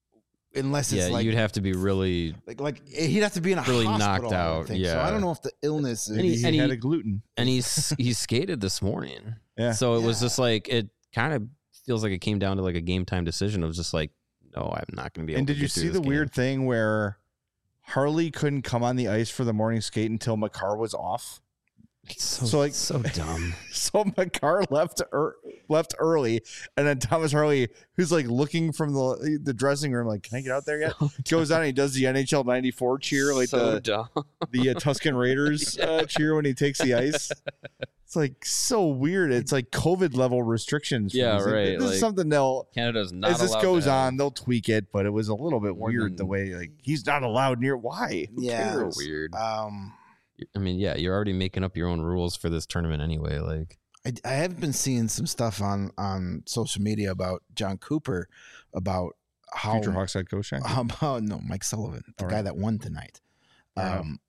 unless it's Yeah, like you'd have to be really. Like, like he'd have to be in a Really hospital, knocked I would out, think. So yeah. I don't know if the illness is. And he- he and had he- a gluten. And he's he skated this morning. Yeah. So it was Yeah. just like it kind of feels like it came down to like a game time decision. It was just like, no, I'm not going to be able. And to did you get through see this the game. weird thing where Harley couldn't come on the ice for the morning skate until Makar was off? It's so, So, like- so dumb. So Makar left er, left early, and then Thomas Harley, who's like looking from the the dressing room, like, "Can I get out there yet?" Goes out and he does the N H L ninety-four cheer, like so the dumb. the uh, Tuscan Raiders uh, cheer when he takes the ice. It's like so weird. It's like COVID level restrictions. for Yeah, these. Like, right, This is like, something they'll Canada's not as this allowed goes to have- on, they'll tweak it, but it was a little bit More weird than- the way like he's not allowed near. Why? Who Yeah. So cares? weird. Um, I mean, yeah, you're already making up your own rules for this tournament anyway. Like, I, I have been seeing some stuff on on social media about John Cooper, about how Future Hawks head coach. Shane? how about no Mike Sullivan, the All guy right. that won tonight. Fair enough. Um,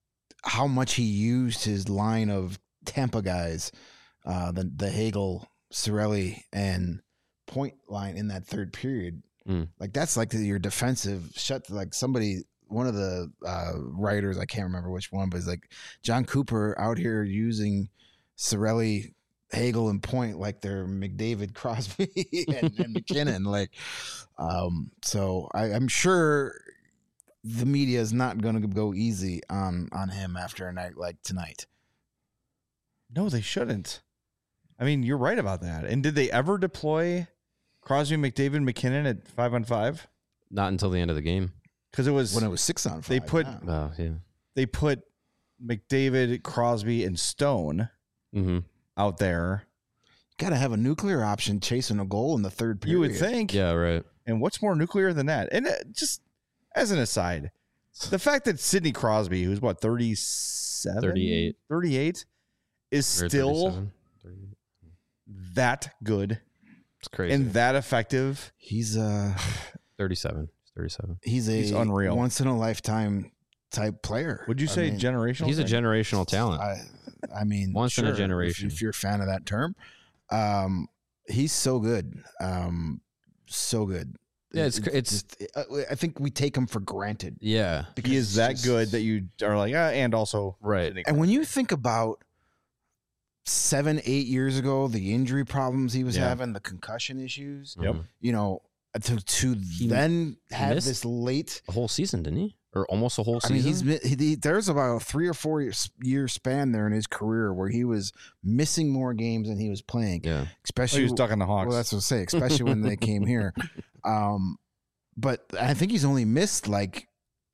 how much he used his line of Tampa guys, uh, the the Hagel, Cirelli, and Point line in that third period. Mm. Like that's like your defensive shut. Like somebody, one of the uh, writers, I can't remember which one, but it's like John Cooper out here using Cirelli, Hagel, and Point like they're McDavid, Crosby, and, and McKinnon. Like, um, so I, I'm sure the media is not going to go easy on on him after a night like tonight. No, they shouldn't. I mean, you're right about that. And did they ever deploy Crosby, McDavid, McKinnon at five on five? not until the end of the game. Because it was When it was six on five, They put- yeah. Oh, yeah. they put McDavid, Crosby, and Stone Mm-hmm. out there. Got to have a nuclear option chasing a goal in the third period. You would think. Yeah, right. And what's more nuclear than that? And uh, just as an aside, the fact that Sidney Crosby, who's what, thirty-seven? thirty-eight. thirty-eight, is Or still thirty-seven, thirty-eight. that good It's crazy. and that effective. He's uh thirty-seven. thirty-seven. he's a He's unreal. once in a lifetime type player. Would you I say mean, generational? He's a thing? generational talent. I, I mean, Once in a sure, if- generation. If, you're a fan of that term, um, he's so good, um, so good. Yeah, it's- It- it's- just- uh, I think we take him for granted. Yeah. because He it's is that just- good that you are like, ah, and also Right. Sidney And when you think about seven, eight years ago, the injury problems he was Yeah. having, the concussion issues, Yep. Mhm. you know, to to He then have missed this late. A whole season, didn't he? Or almost a whole I season? mean, he's mi- he, he, there's about a three or four year, year span there in his career where he was missing more games than he was playing. Yeah. Oh, Especially, he was stuck on the Hawks. well, that's what I say. Especially when they came here. Um, but I think he's only missed like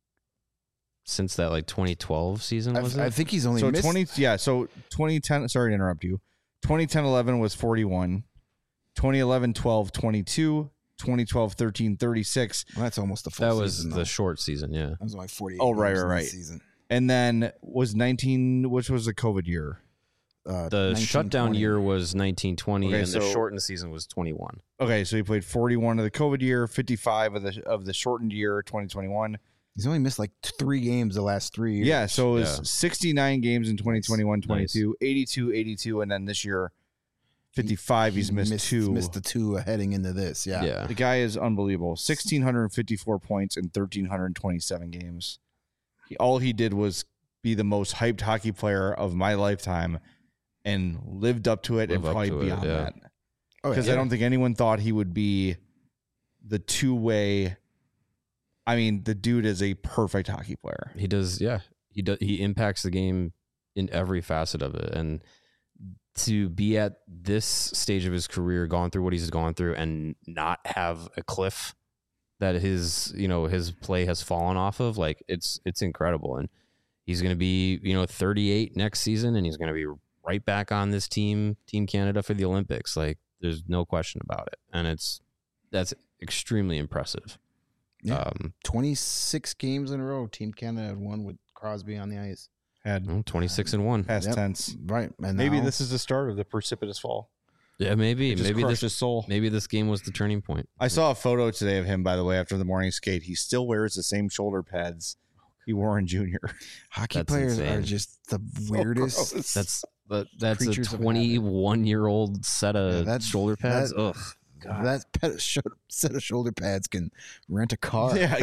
Since that like twenty twelve season, I, was it? I think he's only so missed. twenty, yeah. So twenty ten. Sorry to interrupt you. twenty ten eleven was forty-one. twenty eleven twelve twenty-two. twenty twelve thirteen thirty-six. Well, that's almost the full that was season, the though. short season, yeah. That was only forty-eight. Oh, right, games right, in the right. Season. And then was nineteen, which was the COVID year. Uh, The nineteen shutdown twenty. year was nineteen twenty, Okay, and the so- shortened season was twenty-one. Okay, so he played forty-one of the COVID year, fifty-five of the of the shortened year, twenty twenty-one. He's only missed like t- three games the last three years. Yeah, so it was Yeah. sixty-nine games in twenty twenty-one, Nice. twenty-two, eighty-two, eighty-two, and then this year, fifty-five. He He's missed, two. Missed the two heading into this. Yeah. Yeah. The guy is unbelievable. one thousand six hundred fifty-four points in one thousand three hundred twenty-seven games. He, all he did was be the most hyped hockey player of my lifetime and lived up to it Live and up probably to it, beyond yeah. that. Oh, Because yeah. I don't think anyone thought he would be the two-way. I mean, the dude is a perfect hockey player. He does, yeah. He does. He impacts the game in every facet of it, and to be at this stage of his career, gone through what he's gone through, and not have a cliff that his, you know, his play has fallen off of, like it's it's incredible. And he's going to be, you know, thirty-eight next season, and he's going to be right back on this team, Team Canada for the Olympics. Like there's no question about it, and it's that's extremely impressive. Yeah. Um, twenty-six games in a row. Team Canada had won with Crosby on the ice. Had well, twenty-six and one. past Yep. tense. Right. And Maybe now- this is the start of the precipitous fall. Yeah, maybe, It just maybe crushed this his soul. Maybe this game was the turning point. I saw a photo today of him, by the way, after the morning skate. He still wears the same shoulder pads he wore in junior. hockey That's players insane. are just the weirdest. gross. That's but that's Creatures a of twenty-one year old set of Yeah, that- shoulder pads. that- Ugh, God. That pet, sho- set of shoulder pads can rent a car. Yeah.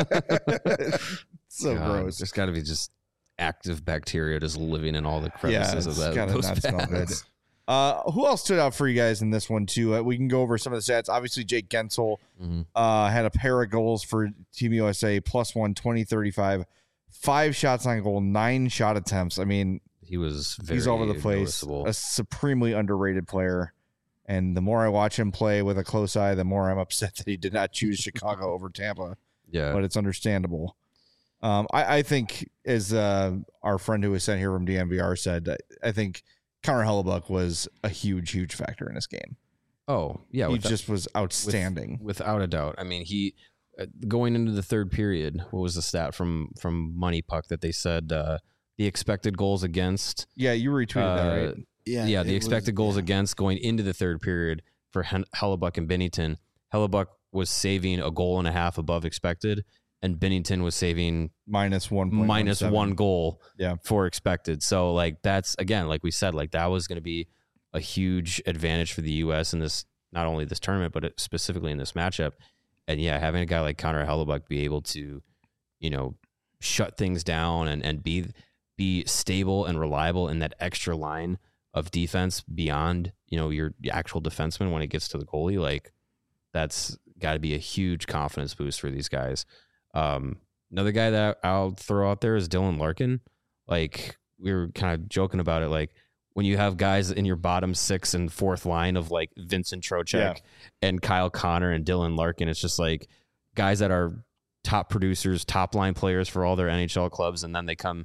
so God, gross. There's got to be just active bacteria just living in all the crevices Yeah, of it's that. gotta those not smell good. pads. Uh, who else stood out for you guys in this one, too? Uh, we can go over some of the stats. Obviously, Jake Gensel Mhm. uh, had a pair of goals for Team U S A, plus one, twenty, thirty-five, five shots on goal, nine shot attempts. I mean, He was very he's all over the place. noticeable. A supremely underrated player. And the more I watch him play with a close eye, the more I'm upset that he did not choose Chicago over Tampa. Yeah, But it's understandable. Um, I, I think, as uh, our friend who was sent here from D N V R said, I, I think Connor Hellebuck was a huge, huge factor in this game. oh yeah, he without, just was outstanding. without a doubt. I mean, he uh, going into the third period. What was the stat from from Money Puck that they said uh, the expected goals against? yeah, you retweeted that, uh, right? Yeah. yeah, the it expected was- goals yeah. against going into the third period for Hen- Hellebuck and Binnington. Hellebuck was saving a goal and a half above expected, and Binnington was saving Minus one. minus one goal Yeah. for expected. So, like, that's, again, like we said, like that was going to be a huge advantage for the U S in this, not only this tournament, but it, specifically in this matchup. And yeah, having a guy like Connor Hellebuck be able to, you know, shut things down and, and be be stable and reliable in that extra line of defense beyond, you know, your actual defenseman when it gets to the goalie, like that's got to be a huge confidence boost for these guys. Um, another guy that I'll throw out there is Dylan Larkin. Like we were kind of joking about it, like when you have guys in your bottom six and fourth line of like Vincent Trocheck Yeah. and Kyle Connor and Dylan Larkin, it's just like guys that are top producers, top line players for all their N H L clubs, and then they come,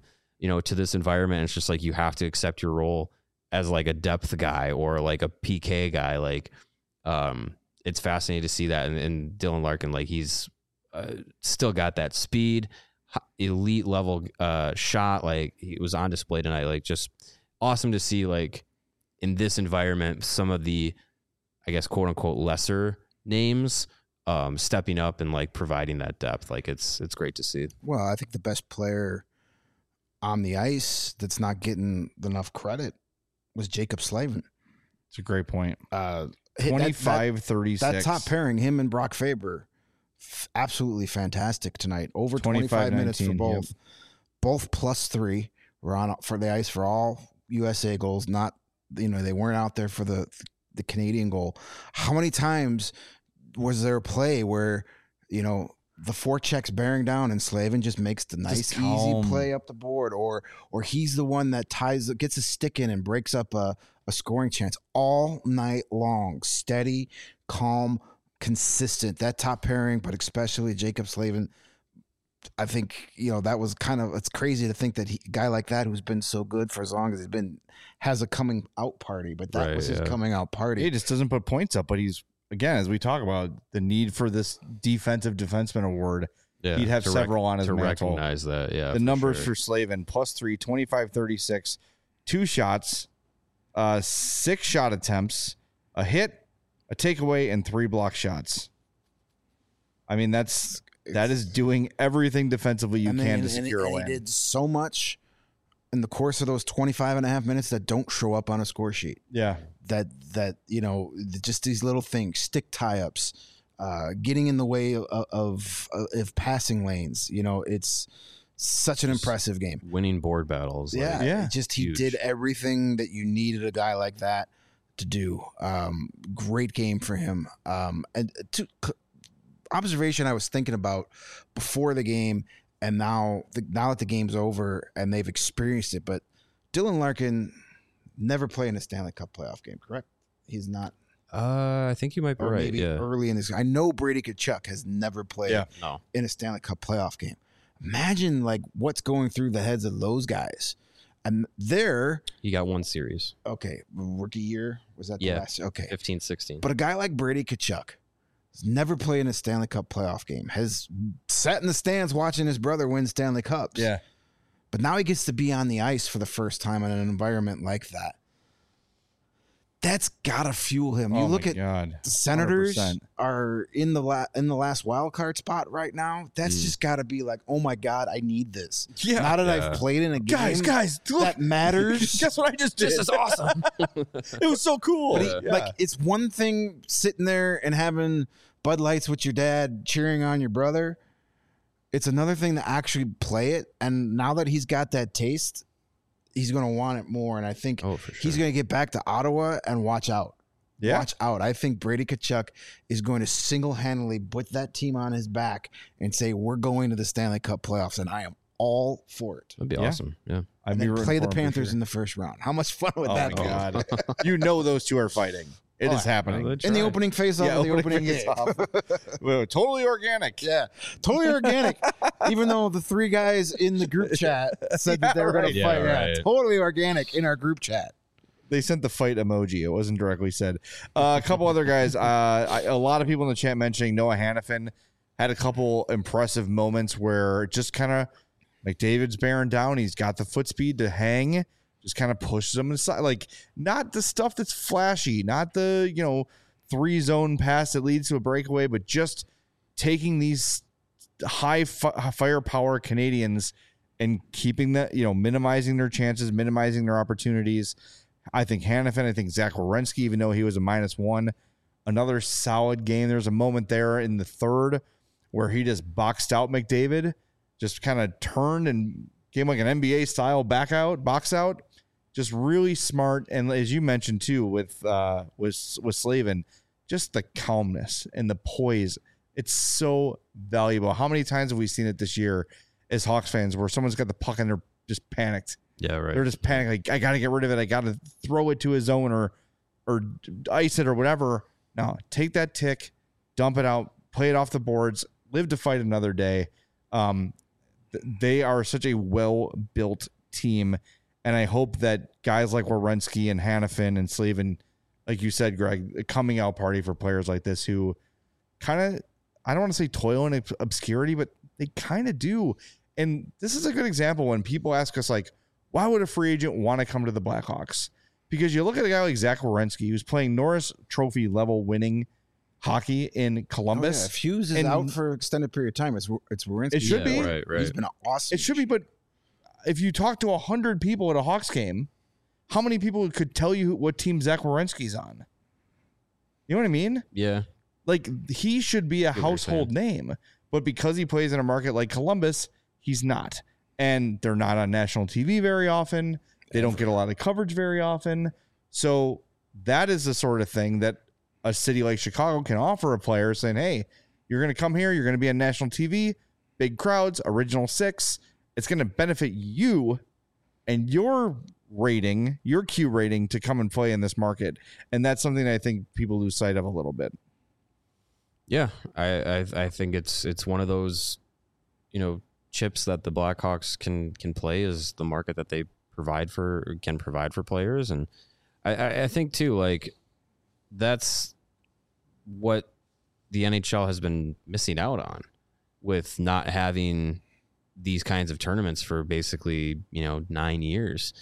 you know, to this environment. It's just like you have to accept your role as like a depth guy or like a P K guy. Like, um, it's fascinating to see that. And, and Dylan Larkin, like he's uh, still got that speed, elite level uh, shot. Like he was on display tonight. Like just awesome to see, like in this environment, some of the, I guess, quote unquote, lesser names um, stepping up and like providing that depth. Like it's, it's great to see. Well, I think the best player on the ice that's not getting enough credit was Jacob Slavin. It's a great point. Uh, twenty-five thirty-six. That top pairing, him and Brock Faber, f- absolutely fantastic tonight. Over twenty-five minutes for both. Yep. Both plus three were on for the ice for all U S A goals. Not, you know, they weren't out there for the the Canadian goal. How many times was there a play where, you know, the forechecks bearing down and Slavin just makes the nice easy play up the board, or or he's the one that ties gets a stick in and breaks up a, a scoring chance all night long. Steady, calm, consistent. That top pairing, but especially Jacob Slavin, I think, you know, that was kind of, it's crazy to think that he, a guy like that who's been so good for as long as he's been has a coming out party, but that Right, was his yeah. coming out party. He just doesn't put points up, but he's, again, as we talk about the need for this defensive defenseman award, Yeah, he'd have to several on his to mantle. recognize that. Yeah, The for numbers sure. for Slavin, plus three, twenty-five thirty-six, two shots, uh, six shot attempts, a hit, a takeaway, and three block shots. I mean, that's that is doing everything defensively you And can then- to and- secure and a he win. did so much in the course of those twenty-five and a half minutes that don't show up on a score sheet. Yeah. That, that you know, just these little things, stick tie-ups, uh, getting in the way of, of, of passing lanes. You know, it's such an impressive game. winning board battles. Yeah, like, Yeah. it just he Huge. did everything that you needed a guy like that to do. Um, great game for him. Um, and to observation I was thinking about before the game, and now the, now that the game's over and they've experienced it, but Dylan Larkin never played in a Stanley Cup playoff game, correct? He's not, Uh, I think you might be or right. maybe Yeah. early in this. I know Brady Tkachuk has never played Yeah. No. in a Stanley Cup playoff game. Imagine like what's going through the heads of those guys. And they're He got one series. okay, rookie year was that the Yeah. last? Okay, fifteen sixteen. but a guy like Brady Tkachuk has never played in a Stanley Cup playoff game. Has sat in the stands watching his brother win Stanley Cups. Yeah. but now he gets to be on the ice for the first time in an environment like that. That's gotta fuel him. You Oh look my at God. the Senators one hundred percent. are in the la- in the last wild card spot right now. That's Mm. just got to be like, oh my God, I need this. Yeah. Now that Yeah. I've played in a game Guys, guys, look. that matters. Guess what I just did? This is awesome. It was so cool. But he, Yeah. like, it's one thing sitting there and having Bud Lights with your dad cheering on your brother. It's another thing to actually play it. And now that he's got that taste, he's going to want it more. And I think Oh, for he's sure. going to get back to Ottawa and watch out. Yeah. Watch out. I think Brady Tkachuk is going to single-handedly put that team on his back and say, we're going to the Stanley Cup playoffs, and I am all for it. That'd be Yeah. awesome. Yeah. I'd And be then rooting play the for him for Panthers sure. in the first round. How much fun would Oh that my be? God. You know those two are fighting. It Oh, is happening. Well, In the try. opening face-off Yeah, of the opening opening game. face-off. Well, totally organic. Yeah, totally organic. Even though the three guys in the group chat said that they were going right. to Yeah, fight, yeah, right. totally organic in our group chat. They sent the fight emoji. It wasn't directly said. Uh, a couple other guys. Uh, I, a lot of people in the chat mentioning Noah Hannafin had a couple impressive moments where just kind of McDavid's bearing down. He's got the foot speed to hang. Just kind of pushes him aside. Like, not the stuff that's flashy, not the, you know, three zone pass that leads to a breakaway, but just taking these high fi- firepower Canadians and keeping that, you know, minimizing their chances, minimizing their opportunities. I think Hannafin, I think Zach Werenski, even though he was a minus one, another solid game. There's a moment there in the third where he just boxed out McDavid, just kind of turned and gave him like an N B A style back out, box out. Just really smart. And as you mentioned too, with uh with with Slavin, just the calmness and the poise. It's so valuable. How many times have we seen it this year as Hawks fans where someone's got the puck and they're just panicked? Yeah, right. They're just panicked. Like, I got to get rid of it. I got to throw it to his zone or or ice it or whatever. No, take that tick, dump it out, play it off the boards, live to fight another day. Um, th- they are such a well-built team. And I hope that guys like Werenski and Hannafin and Slavin, like you said, Greg, a coming out party for players like this who kind of, I don't want to say toil in obscurity, but they kind of do. And this is a good example when people ask us, like, why would a free agent want to come to the Blackhawks? Because you look at a guy like Zach Werenski, who's playing Norris Trophy level winning hockey in Columbus. Oh, yeah. If Hughes is and out for extended period of time, it's it's Werenski. It should Yeah, be. right, right. He's been awesome. It should be, but if you talk to one hundred people at a Hawks game, how many people could tell you what team Zach Werenski's on? You know what I mean? Yeah. Like, he should be a Get what you're household name, but because he plays in a market like Columbus, he's not. And they're not on national T V very often. They don't get a lot of coverage very often. So that is the sort of thing that a city like Chicago can offer a player, saying, hey, you're going to come here, you're going to be on national T V, big crowds, original six. It's going to benefit you and your rating, your Q rating to come and play in this market. And that's something I think people lose sight of a little bit. Yeah, I, I I think it's it's one of those, you know, chips that the Blackhawks can can play is the market that they provide for can provide for players, and I, I, I think too, like, that's what the N H L has been missing out on with not having these kinds of tournaments for basically, you know, nine years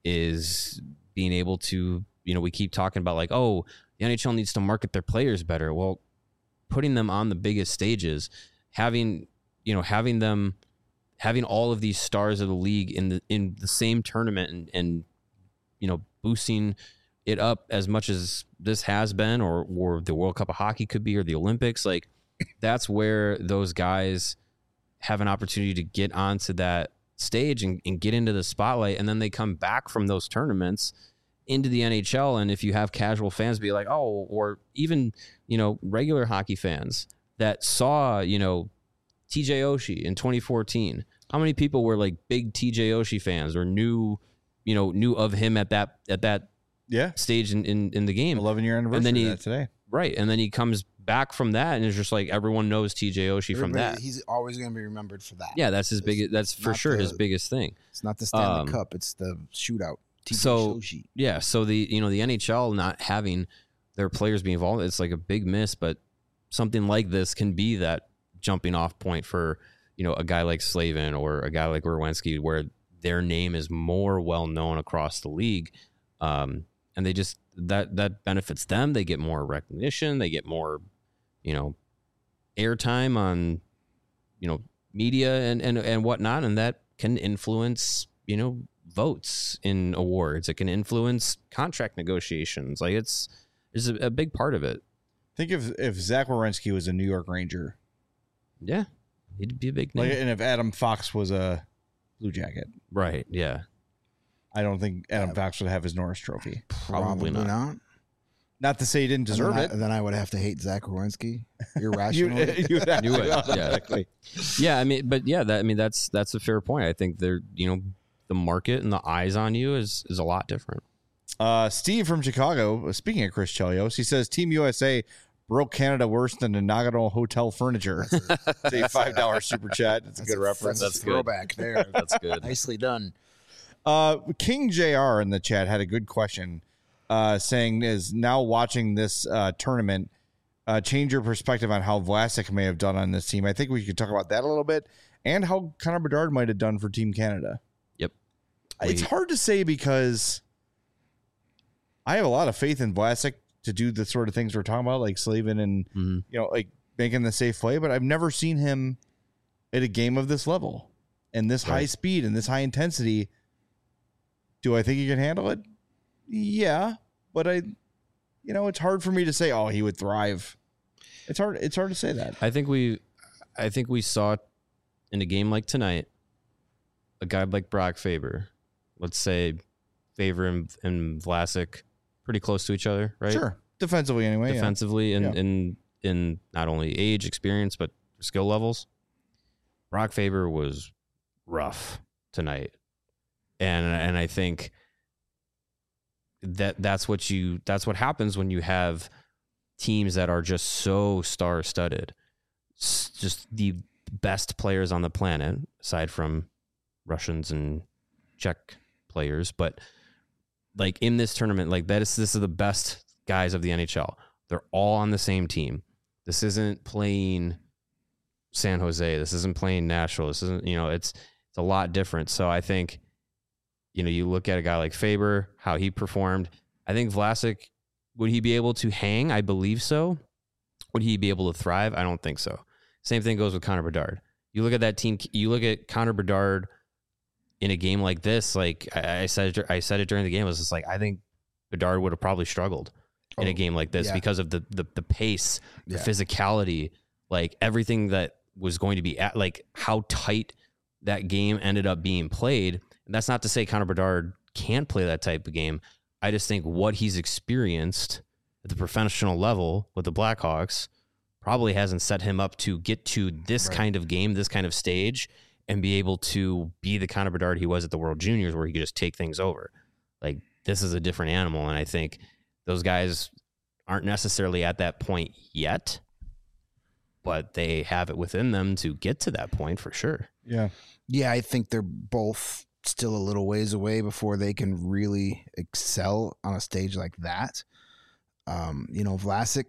is being able to, you know, we keep talking about like, oh, the N H L needs to market their players better. Well, putting them on the biggest stages, having, you know, having them, having all of these stars of the league in the, in the same tournament and, and, you know, boosting it up as much as this has been, or, or the World Cup of Hockey could be, or the Olympics, like that's where those guys have an opportunity to get onto that stage and, and get into the spotlight. And then they come back from those tournaments into the N H L. And if you have casual fans be like, oh, or even, you know, regular hockey fans that saw, you know, T J Oshie in twenty fourteen, how many people were like big T J Oshie fans or knew, you know, knew of him at that, at that Yeah. stage in, in, in the game. eleven year anniversary And then he- of that today. Right. And then he comes back from that and it's just like everyone knows T J Oshie from Everybody- that. He's always going to be remembered for that. Yeah, that's his It's biggest, that's for not sure the- his biggest thing. It's not the Stanley Um, Cup. It's the shootout. T J so- Oshie. Yeah, so the you know the N H L not having their players be involved, it's like a big miss. But something like this can be that jumping off point for, you know, a guy like Slavin or a guy like Werenski, where their name is more well known across the league, um, and they just that that benefits them. They get more recognition. They get more, you know, airtime on, you know, media and and and whatnot, and that can influence, you know, votes in awards. It can influence contract negotiations. Like it's is a, a big part of it. Think if if Zach Werenski was a New York Ranger, Yeah, he'd be a big name. like, and if Adam Fox was a Blue Jacket, Right? Yeah. I don't think Adam Fox would have his Norris Trophy. Probably not. Not to say he didn't deserve and then it. I, then I would have to hate Zach Werenski You, irrationally. you'd have You to would, yeah. automatically. Yeah, I mean, but yeah, that I mean that's that's a fair point. I think they're, you know, the market and the eyes on you is is a lot different. Uh, Steve from Chicago, speaking of Chris Chelios, he says Team U S A broke Canada worse than the Nagano Hotel furniture. It's a five dollar super chat. It's a That's good reference. That's That's a good. throwback there. That's good. Nicely done. Uh, King J R in the chat had a good question, uh, saying, is now watching this uh, tournament uh, change your perspective on how Vlasic may have done on this team? I think we could talk about that a little bit and how Connor Bedard might have done for Team Canada. Yep. It's We- hard to say because I have a lot of faith in Vlasic to do the sort of things we're talking about, like Slavin and, Mhm. you know, like making the safe play, but I've never seen him at a game of this level and this high Right. speed and this high intensity. Do I think he can handle it? Yeah, but I, you know, it's hard for me to say, oh, he would thrive. It's hard. It's hard to say that. I think we, I think we saw in a game like tonight, a guy like Brock Faber, let's say Faber and, and Vlasic, pretty close to each other, right? Sure, defensively anyway. yeah. Defensively and Yeah. in in not only age, experience, but skill levels. Brock Faber was rough tonight, and and I think that that's what you that's what happens when you have teams that are just so star studded, just the best players on the planet aside from Russians and check players, but like in this tournament, like that is this is the best guys of the N H L. They're all on the same team. This isn't playing San Jose. This isn't playing Nashville. This isn't, you know, it's it's a lot different. So I think, you know, you look at a guy like Faber, how he performed. I think Vlasic, would he be able to hang? I believe so. Would he be able to thrive? I don't think so. Same thing goes with Connor Bedard. You look at that team, you look at Connor Bedard in a game like this, like I, I said, I said it during the game, it was just like, I think Bedard would have probably struggled oh, in a game like this yeah. because of the, the, the pace, the yeah. physicality, like everything that was going to be at, like how tight that game ended up being played. And that's not to say Connor Bedard can't play that type of game. I just think what he's experienced at the professional level with the Blackhawks probably hasn't set him up to get to this right. kind of game, this kind of stage, and be able to be the Connor Bedard he was at the World Juniors where he could just take things over. Like, this is a different animal, and I think those guys aren't necessarily at that point yet, but they have it within them to get to that point for sure. Yeah. Yeah, I think they're both still a little ways away before they can really excel on a stage like that. Um, you know, Vlasic,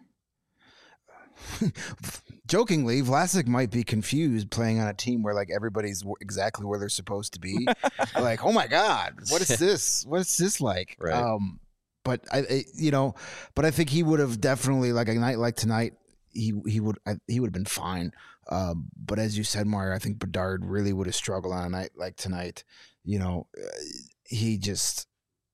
jokingly, Vlasic might be confused playing on a team where like everybody's w- exactly where they're supposed to be. Like, oh my God, what is this? What is this like? Right. Um, but I, I, you know, but I think he would have definitely, like a night like tonight, he he would I, he would have been fine. Um, but as you said, Mario, I think Bedard really would have struggled on a night like tonight. You know, he just.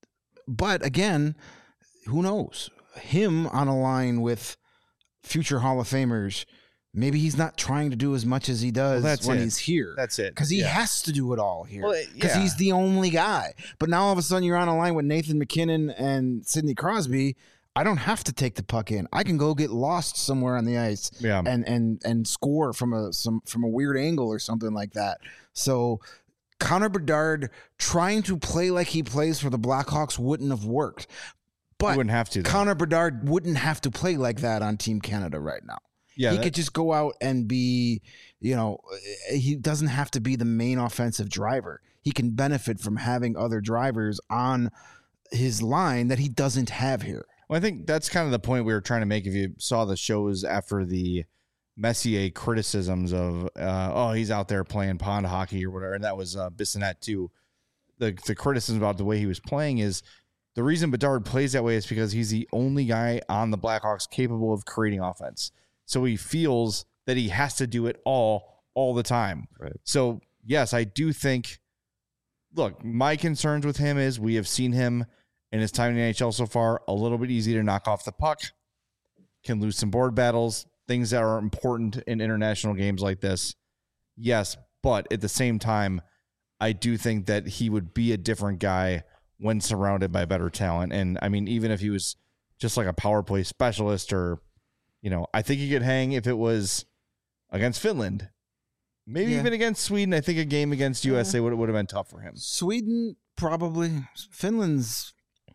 But again, who knows? Him on a line with future Hall of Famers, maybe he's not trying to do as much as he does well, when it. he's here. That's it. Because he yeah. has to do it all here. Because well, yeah. he's the only guy. But now all of a sudden you're on a line with Nathan McKinnon and Sidney Crosby. I don't have to take the puck in. I can go get lost somewhere on the ice yeah. and and and score from a some from a weird angle or something like that. So Connor Bedard trying to play like he plays for the Blackhawks wouldn't have worked. But you wouldn't have to, though. Connor Bedard wouldn't have to play like that on Team Canada right now. Yeah, he that, could just go out and be, you know, he doesn't have to be the main offensive driver. He can benefit from having other drivers on his line that he doesn't have here. Well, I think that's kind of the point we were trying to make. If you saw the shows after the Messier criticisms of, uh, oh, he's out there playing pond hockey or whatever, and that was uh, Bissonnette too. The the criticism about the way he was playing is the reason Bedard plays that way is because he's the only guy on the Blackhawks capable of creating offense. So he feels that he has to do it all, all the time. Right. So, yes, I do think, look, my concerns with him is we have seen him in his time in the N H L so far, a little bit easy to knock off the puck, can lose some board battles, things that are important in international games like this. Yes, but at the same time, I do think that he would be a different guy when surrounded by better talent. And I mean, even if he was just like a power play specialist or, you know, I think he could hang if it was against Finland. Maybe yeah. even against Sweden. I think a game against U S A yeah. would, would have been tough for him. Sweden, probably. Finland's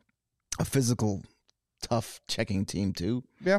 a physical, tough checking team, too. Yeah.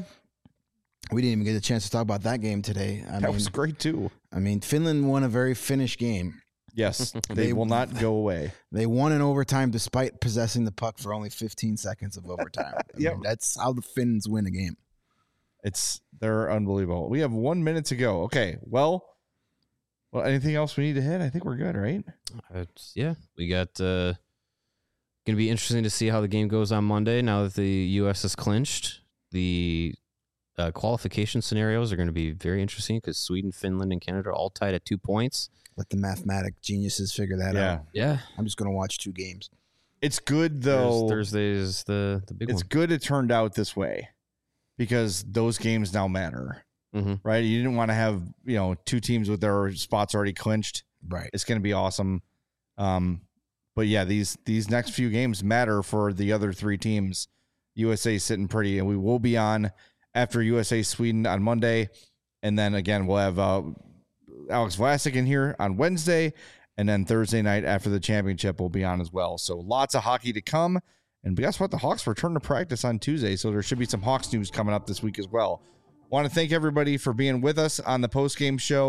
We didn't even get a chance to talk about that game today. I that mean, was great, too. I mean, Finland won a very Finnish game. Yes, they, they will not go away. They won in overtime despite possessing the puck for only fifteen seconds of overtime. Yeah, that's how the Finns win a game. It's they're unbelievable. We have one minute to go. Okay, well, well, anything else we need to hit? I think we're good, right? It's, yeah, we got. Uh, going to be interesting to see how the game goes on Monday. Now that the U S is clinched, the uh, qualification scenarios are going to be very interesting because Sweden, Finland, and Canada are all tied at two points. Let the mathematic geniuses figure that yeah. out. Yeah. I'm just going to watch two games. It's good, though. Thursday is the, the big it's one. It's good it turned out this way because those games now matter, mm-hmm. right? You didn't want to have, you know, two teams with their spots already clinched. Right. It's going to be awesome. Um, but, yeah, these these next few games matter for the other three teams. U S A sitting pretty, and we will be on after U S A Sweden on Monday. And then, again, we'll have uh, – Alex Vlasic in here on Wednesday, and then Thursday night after the championship will be on as well. So lots of hockey to come. And guess what? The Hawks return to practice on Tuesday, so there should be some Hawks news coming up this week as well. Want to thank everybody for being with us on the post-game show.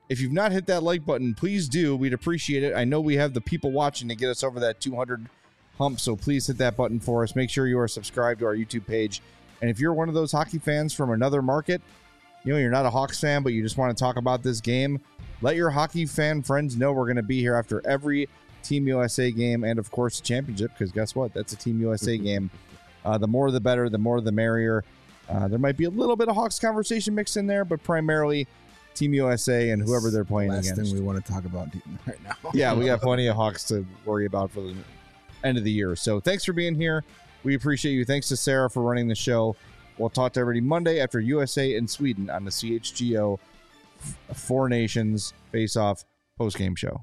If you've not hit that like button, please do. We'd appreciate it. I know we have the people watching to get us over that two hundred hump, so please hit that button for us. Make sure you are subscribed to our YouTube page. And if you're one of those hockey fans from another market, you know, you're not a Hawks fan, but you just want to talk about this game, let your hockey fan friends know we're going to be here after every Team U S A game and, of course, the championship, because guess what? That's a Team U S A game. Uh, the more the better, the more the merrier. Uh, there might be a little bit of Hawks conversation mixed in there, but primarily Team U S A and whoever they're playing Last against. thing we want to talk about right now. Yeah, we got plenty of Hawks to worry about for the end of the year. So thanks for being here. We appreciate you. Thanks to Sarah for running the show. We'll talk to everybody Monday after U S A and Sweden on the C H G O Four Nations Face-Off post-game show.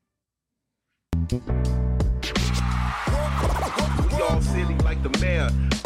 We all silly like the mayor.